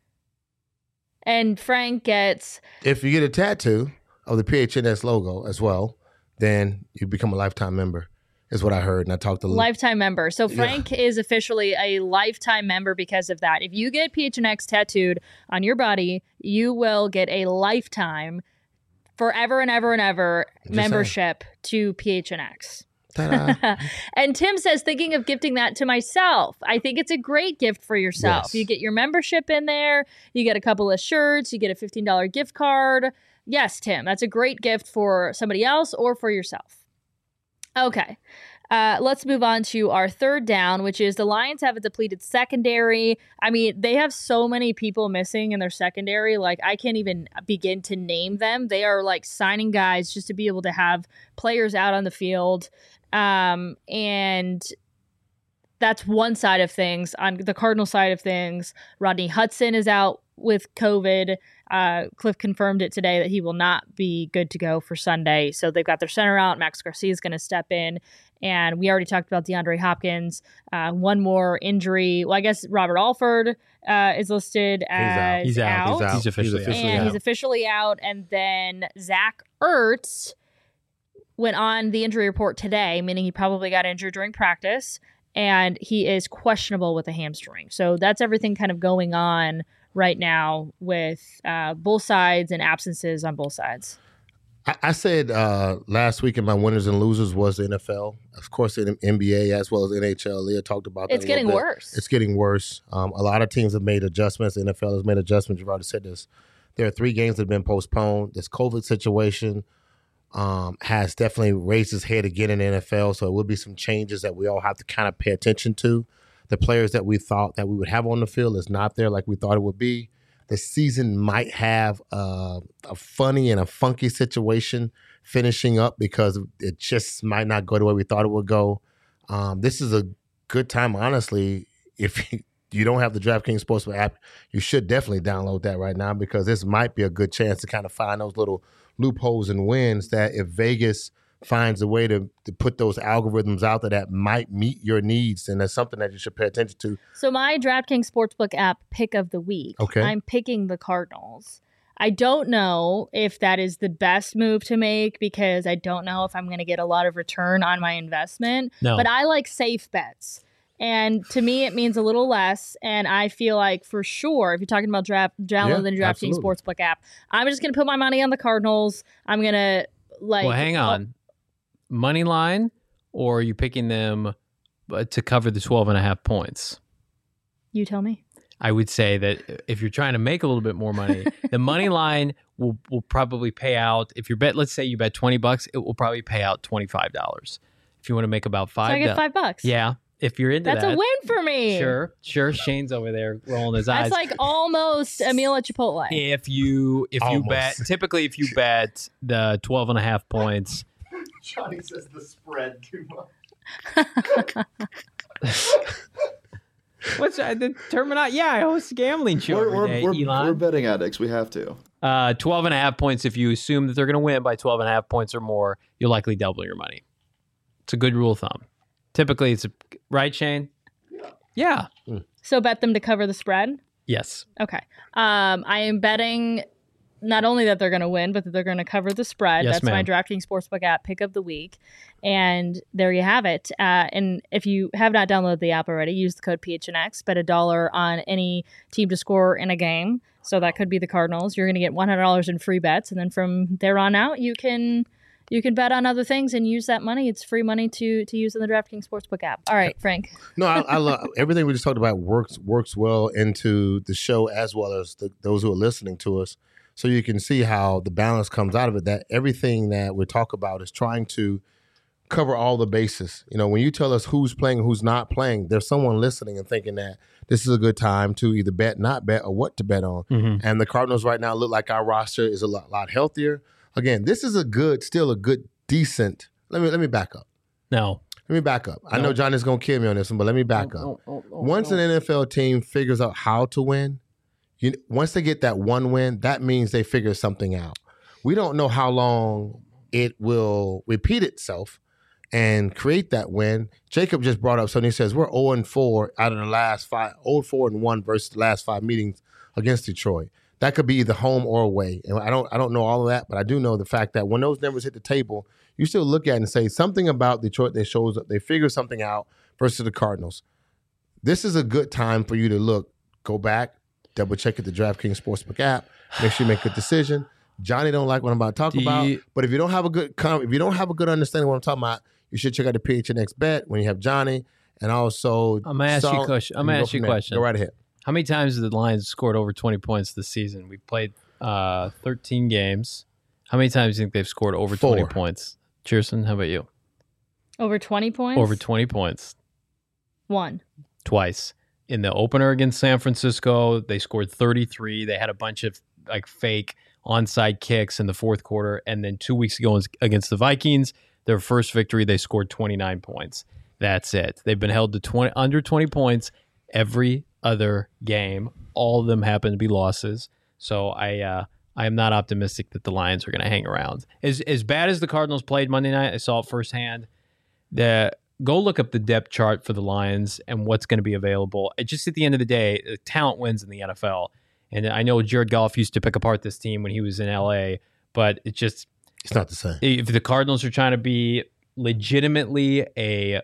And Frank gets... If you get a tattoo of the PHNX logo as well, then you become a lifetime member, is what I heard. And I talked to... Lifetime member. So Frank is officially a lifetime member because of that. If you get PHNX tattooed on your body, you will get a lifetime, forever and ever and ever, membership to PHNX. And Tim says, thinking of gifting that to myself. I think it's a great gift for yourself. Yes. You get your membership in there. You get a couple of shirts. You get a $15 gift card. Yes, Tim, that's a great gift for somebody else or for yourself. Okay. Let's move on to our third down, which is the Lions have a depleted secondary. I mean, they have so many people missing in their secondary. Like, I can't even begin to name them. They are like signing guys just to be able to have players out on the field. And that's one side of things. On the Cardinal side of things, Rodney Hudson is out with COVID. Cliff confirmed it today that he will not be good to go for Sunday. So they've got their center out. Max Garcia is going to step in. And we already talked about DeAndre Hopkins. One more injury. Well, I guess Robert Alford is listed as He's out. He's officially out. He's officially out. And then Zach Ertz went on the injury report today, meaning he probably got injured during practice, and he is questionable with a hamstring. So that's everything kind of going on right now with both sides and absences on both sides. I said last week in my winners and losers was the NFL. Of course, in NBA as well as NHL. Leah talked about that. It's getting worse. It's getting worse. A lot of teams have made adjustments. The NFL has made adjustments. You've already said this. There are 3 games that have been postponed. This COVID situation has definitely raised its head again in the NFL. So it will be some changes that we all have to kind of pay attention to. The players that we thought that we would have on the field is not there like we thought it would be. The season might have a funny and a funky situation finishing up because it just might not go the way we thought it would go. This is a good time, honestly. If you don't have the DraftKings Sportsbook app, you should definitely download that right now because this might be a good chance to kind of find those little loopholes and wins that if Vegas finds a way to put those algorithms out there that might meet your needs, and that's something that you should pay attention to. So my DraftKings Sportsbook app pick of the week, I'm picking the Cardinals. I don't know if that is the best move to make because I don't know if I'm going to get a lot of return on my investment. No. But I like safe bets. And to me, it means a little less. And I feel like for sure, if you're talking about download the DraftKings Sportsbook app, I'm just going to put my money on the Cardinals. I'm going to Well, hang on. Money line, or are you picking them to cover the 12.5 points? You tell me. I would say that if you're trying to make a little bit more money, the money line will probably pay out. If you bet, let's say you bet $20, it will probably pay out $25. If you want to make about $5, so I get $5. Yeah. If you're into That's that. a win for me. Sure. Shane's over there rolling his eyes. That's like almost a meal at Chipotle. If you bet, typically if you bet the 12.5 points. Johnny says the spread too much. What's the terminology? Yeah, I host a gambling show every day, Elon. We're betting addicts. We have to. 12.5 points. If you assume that they're going to win by 12.5 points or more, you'll likely double your money. It's a good rule of thumb. Typically, right, Shane? Yeah. So bet them to cover the spread? Yes. Okay. I am betting not only that they're going to win, but that they're going to cover the spread. Yes, That's ma'am. my DraftKings Sportsbook app pick of the week. And there you have it. And if you have not downloaded the app already, use the code PHNX. Bet $1 on any team to score in a game. So that could be the Cardinals. You're going to get $100 in free bets. And then from there on out, you can bet on other things and use that money. It's free money to use in the DraftKings Sportsbook app. All right, Frank. No, I love everything we just talked about. Works well into the show as well as those who are listening to us. So you can see how the balance comes out of it. That everything that we talk about is trying to cover all the bases. You know, when you tell us who's playing and who's not playing, there's someone listening and thinking that this is a good time to either bet, not bet, or what to bet on. Mm-hmm. And the Cardinals right now look like our roster is a lot healthier. Again, this is still a good, decent. Let me back up. No. Let me back up. I know Johnny's gonna kill me on this one, but let me back up. Once an NFL team figures out how to win, once they get that one win, that means they figure something out. We don't know how long it will repeat itself and create that win. Jacob just brought up something. He says we're 0-4 out of the last 5, 0-4-1 versus the last 5 meetings against Detroit. That could be either home or away. And I don't know all of that, but I do know the fact that when those numbers hit the table, you still look at it and say something about Detroit that shows up. They figure something out versus the Cardinals. This is a good time for you to go back, double check at the DraftKings Sportsbook app, make sure you make a decision. Johnny don't like what I'm about to talk about, but if you don't have a good understanding of what I'm talking about, you should check out the PHNX bet when you have Johnny, and also I'm gonna ask you a question. Go right ahead. How many times have the Lions scored over 20 points this season? We've played 13 games. How many times do you think they've scored over 20 points? Cheerson, how about you? Over 20 points? Over 20 points. 1. Twice. In the opener against San Francisco, they scored 33. They had a bunch of fake onside kicks in the fourth quarter. And then 2 weeks ago against the Vikings, their first victory, they scored 29 points. That's it. They've been held to under 20 points every other game. All of them happen to be losses. So I am not optimistic that the Lions are going to hang around. As bad as the Cardinals played Monday night, I saw it firsthand. Go look up the depth chart for the Lions and what's going to be available. Just at the end of the day, talent wins in the NFL. And I know Jared Goff used to pick apart this team when he was in LA, but it's not the same. If the Cardinals are trying to be legitimately a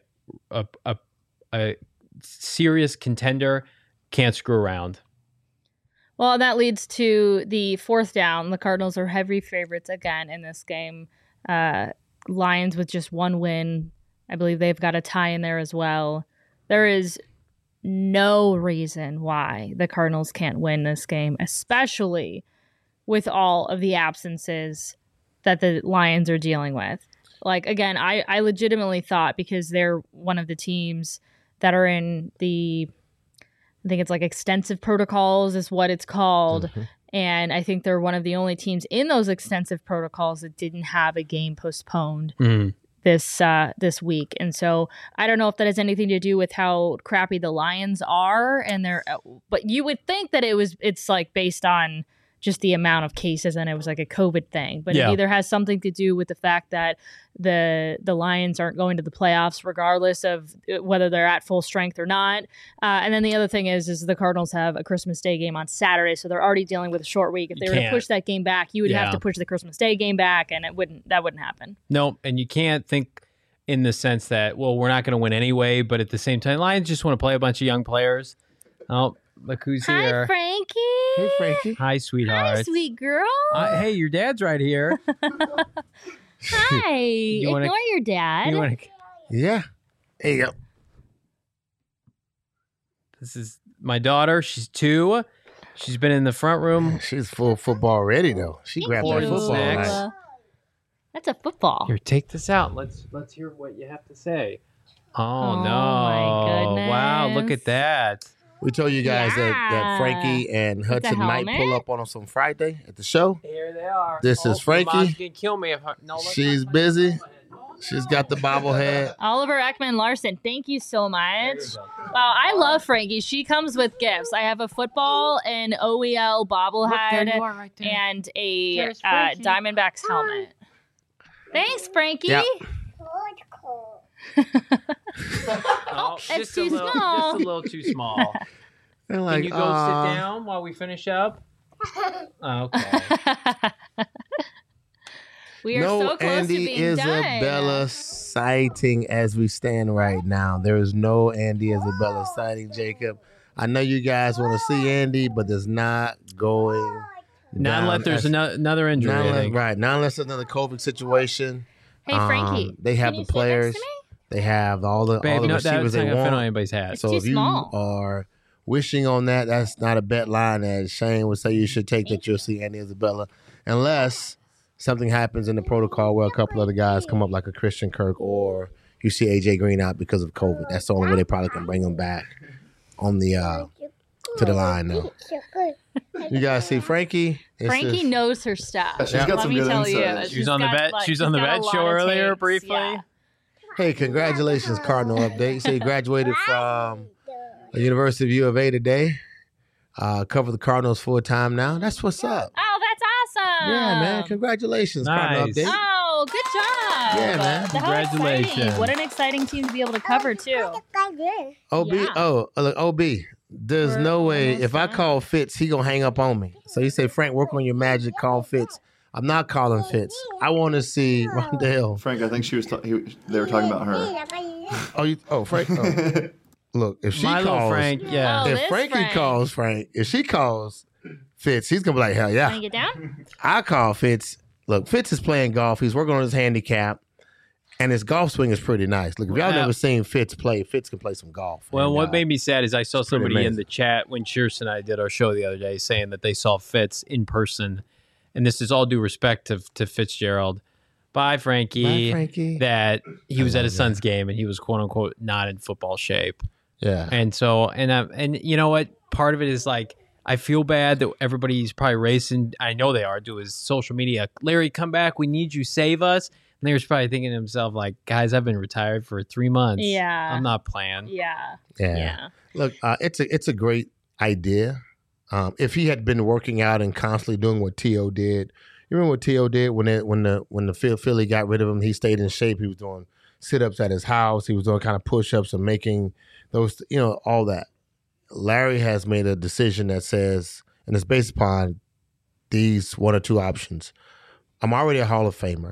serious contender, can't screw around. Well, that leads to the fourth down. The Cardinals are heavy favorites again in this game. Lions with just one win. I believe they've got a tie in there as well. There is no reason why the Cardinals can't win this game, especially with all of the absences that the Lions are dealing with. Again, I legitimately thought, because they're one of the teams that are in I think it's extensive protocols is what it's called. Mm-hmm. And I think they're one of the only teams in those extensive protocols that didn't have a game postponed this week. And so I don't know if that has anything to do with how crappy the Lions are, but you would think that it's based on just the amount of cases and it was a COVID thing. But It either has something to do with the fact that the Lions aren't going to the playoffs regardless of whether they're at full strength or not. And then the other thing is the Cardinals have a Christmas Day game on Saturday, so they're already dealing with a short week. If they were to push that game back, you would have to push the Christmas Day game back, and that wouldn't happen. No, and you can't think in the sense that, well, we're not going to win anyway, but at the same time, Lions just want to play a bunch of young players. Oh, look who's here. Hi, Frankie. Hey, Frankie. Hi, sweetheart. Hi, sweet girl. Hey, your dad's right here. Hi. Ignore your dad. Yeah. There you go. This is my daughter. She's 2. She's been in the front room. She's full football ready, though. She grabbed her football. That's a football. Here, take this out. Let's hear what you have to say. Oh, no. my goodness. Wow, look at that. We told you guys that Frankie and Hudson might pull up on us on Friday at the show. Here they are. This is Frankie. Mom's gonna kill me if She's busy. She's got the bobblehead. Oliver Ekman Larson, thank you so much. Wow, I love Frankie. She comes with gifts. I have a football, an OEL bobblehead, right and a There's Frankie. Diamondbacks helmet. Thanks, Frankie. Yep. Oh, it's just too just small. a little too small. They're like, Can you go sit down while we finish up? Okay. We are no so close Andy to being Isabella done. sighting as we stand right now. There is no Andy Isabella sighting, Jacob. I know you guys want to see Andy, but there's not going Not unless there's another injury. not I unless, think. right. Not unless there's another COVID situation. Hey, Frankie. They have can you the sit next players. to me? They have all the Babe, no, receivers that's not they gonna fit on want. anybody's hat. It's So too if you small. are wishing on that, that's not a bet line that Shane would say you should take that you'll see Andy Isabella, unless something happens in the protocol where a couple other guys come up like a Christian Kirk or you see AJ Green out because of COVID. That's the only way they probably can bring him back on the to the line now. You guys see Frankie? It's Frankie just- knows her stuff. She's got Let some me good tell insights. you. She was on the got, vet- like, she was she's on the got a vet lot show of earlier takes. briefly. Yeah. Hey, congratulations, Cardinal update. So you graduated from the University of U of A today. Cover the Cardinals full time now. That's what's up. Oh, that's awesome. Yeah, man. Congratulations, Cardinal Nice. update. Oh, good job. Yeah, man. How Congratulations. exciting. What an exciting team to be able to cover, too. OB, Yeah. look, OB. There's We're no way almost if I done. call Fitz, he gonna hang up on me. So you say, Frank, work on your magic. Call Fitz. I'm not calling Fitz. I want to see Rondell. Frank, I think she was. They were talking about her. Frank. Oh. Look, if she My little calls, Frank, yeah. Oh, if this Frankie Frank. calls Frank, if she calls Fitz, he's gonna be like, hell Want yeah. to get down? I call Fitz. Look, Fitz is playing golf. He's working on his handicap, and his golf swing is pretty nice. Look, if y'all Well, never seen Fitz play, Fitz can play some golf. Well, And, what made me sad is I saw pretty somebody in amazing. the chat when Shears and I did our show the other day saying that they saw Fitz in person. And this is all due respect to Fitzgerald. Bye, Frankie. Bye, Frankie. That he was I at his love son's game and he was quote unquote not in football shape. Yeah. And so, and you know what? Part of it is like, I feel bad that everybody's probably racing. I know they are, to his social media. Larry, come back. We need you. Save us. And Larry's probably thinking to himself, like, guys, I've been retired for 3 months. Yeah. I'm not playing. Yeah. Yeah. Yeah. Look, it's a great idea. If he had been working out and constantly doing what T.O. did, you remember what T.O. did when the Philly got rid of him? He stayed in shape. He was doing sit-ups at his house. He was doing kind of push-ups and making those, all that. Larry has made a decision that says, and it's based upon these one or two options. I'm already a Hall of Famer,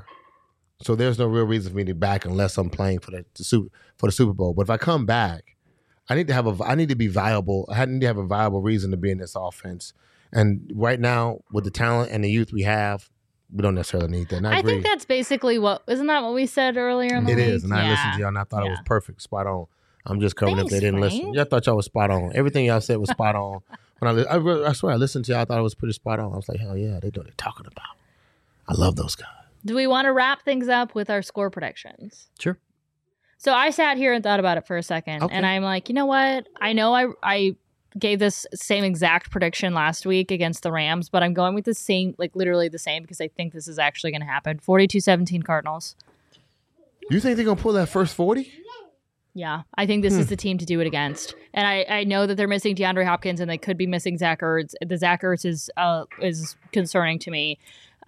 so there's no real reason for me to be back unless I'm playing for the Super Bowl. But if I come back, I need to be viable. I need to have a viable reason to be in this offense. And right now, with the talent and the youth we have, we don't necessarily need that. And I agree. think that's basically isn't that what we said earlier in the It week? is. And I listened to y'all and I thought it was perfect, spot on. I'm just covering if they Thanks, didn't Frank. listen. Y'all thought y'all was spot on. Everything y'all said was spot on. When I swear, I listened to y'all, I thought it was pretty spot on. I was like, hell yeah, they know what they're talking about. I love those guys. Do we want to wrap things up with our score predictions? Sure. So I sat here and thought about it for a second, Okay. and I'm like, you know what? I know I gave this same exact prediction last week against the Rams, but I'm going with the same, like literally the same, because I think this is actually going to happen. 42-17 Cardinals. You think they're going to pull that first 40? Yeah, I think this is the team to do it against. And I know that they're missing DeAndre Hopkins and they could be missing Zach Ertz. The Zach Ertz is concerning to me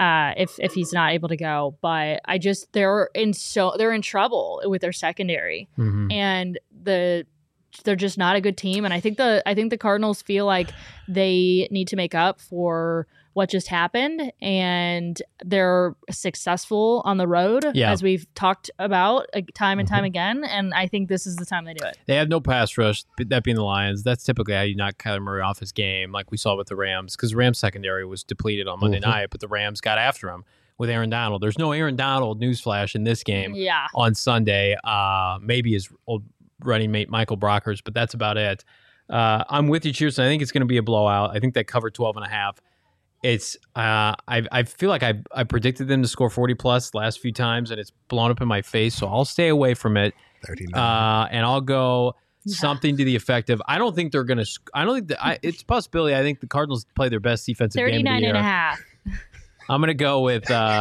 if he's not able to go. But they're in trouble with their secondary, Mm-hmm. and they're just not a good team. And I think the Cardinals feel like they need to make up for what just happened, and they're successful on the road, as we've talked about time and time again. And I think this is the time they do it. They have no pass rush, that being the Lions. That's typically how you knock Kyler Murray off his game, like we saw with the Rams, because the Rams secondary was depleted on Monday night, but the Rams got after him with Aaron Donald. There's no Aaron Donald, newsflash, in this game on Sunday. Maybe his old running mate Michael Brockers, but that's about it. I'm with you, Cheers. I think it's going to be a blowout. I think they cover 12.5. It's I feel like I predicted them to score 40 plus last few times, and it's blown up in my face. So I'll stay away from it. 39. And I'll go something to the effect of I don't think they're going to. I don't think it's a possibility. I think the Cardinals play their best defensive game of the year. 39.5. I'm gonna go with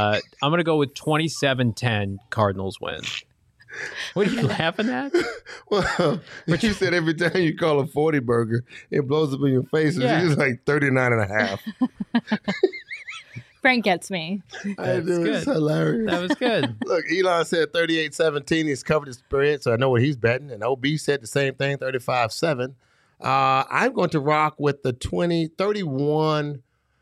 27-10 Cardinals win. What are you laughing at? Well, but you said every time you call a 40 burger, it blows up in your face. Yeah. It's like 39.5. Frank gets me. It's hilarious. That was good. Look, Elon said 38-17. He's covered his spread, so I know what he's betting. And OB said the same thing, 35-7. I'm going to rock with the 31-10.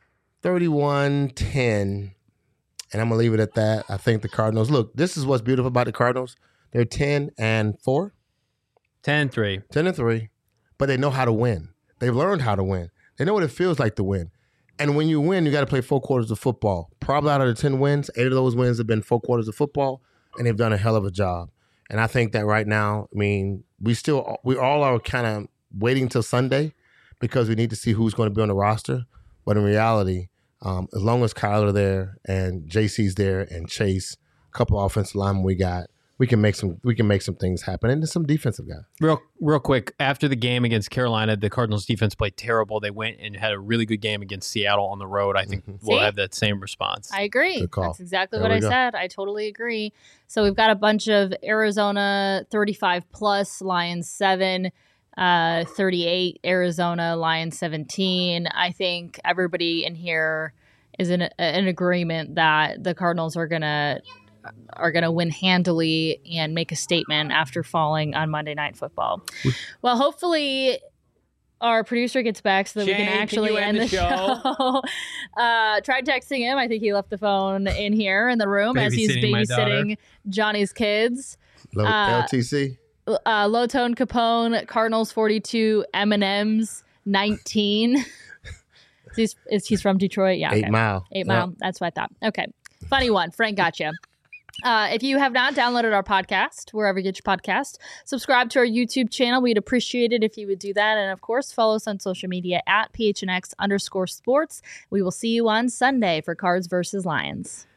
And I'm going to leave it at that. I think the Cardinals, look, this is what's beautiful about the Cardinals. They're 10-4. 10-3. 10-3. But they know how to win. They've learned how to win. They know what it feels like to win. And when you win, you got to play 4 quarters of football. Probably out of the 10 wins, 8 of those wins have been 4 quarters of football, and they've done a hell of a job. And I think that right now, I mean, we all are kind of waiting till Sunday because we need to see who's going to be on the roster. But in reality, as long as Kyler there and JC's there and Chase, a couple offensive linemen we got, we can make some things happen, and there's some defensive guys. Real quick, after the game against Carolina, the Cardinals defense played terrible. They went and had a really good game against Seattle on the road. I think we'll have that same response. I agree. Good call. That's exactly There what we I go. said. I totally agree. So we've got a bunch of Arizona 35 plus, Lions 7, 38, Arizona, Lions 17. I think everybody in here is in agreement that the Cardinals are gonna win handily and make a statement after falling on Monday Night Football. Well, hopefully our producer gets back so that we Shane, can actually you end the show. Tried texting him. I think he left the phone in here in the room as he's Babysitting my daughter. babysitting Johnny's kids. LTC. Low Tone Capone, Cardinals 42, M&M's 19. He's from Detroit? Yeah. 8 Mile. 8 Mile. Yep. That's what I thought. Okay. Funny one. Frank got you. If you have not downloaded our podcast, wherever you get your podcast, subscribe to our YouTube channel. We'd appreciate it if you would do that. And of course, follow us on social media at PHNX_sports. We will see you on Sunday for Cards versus Lions.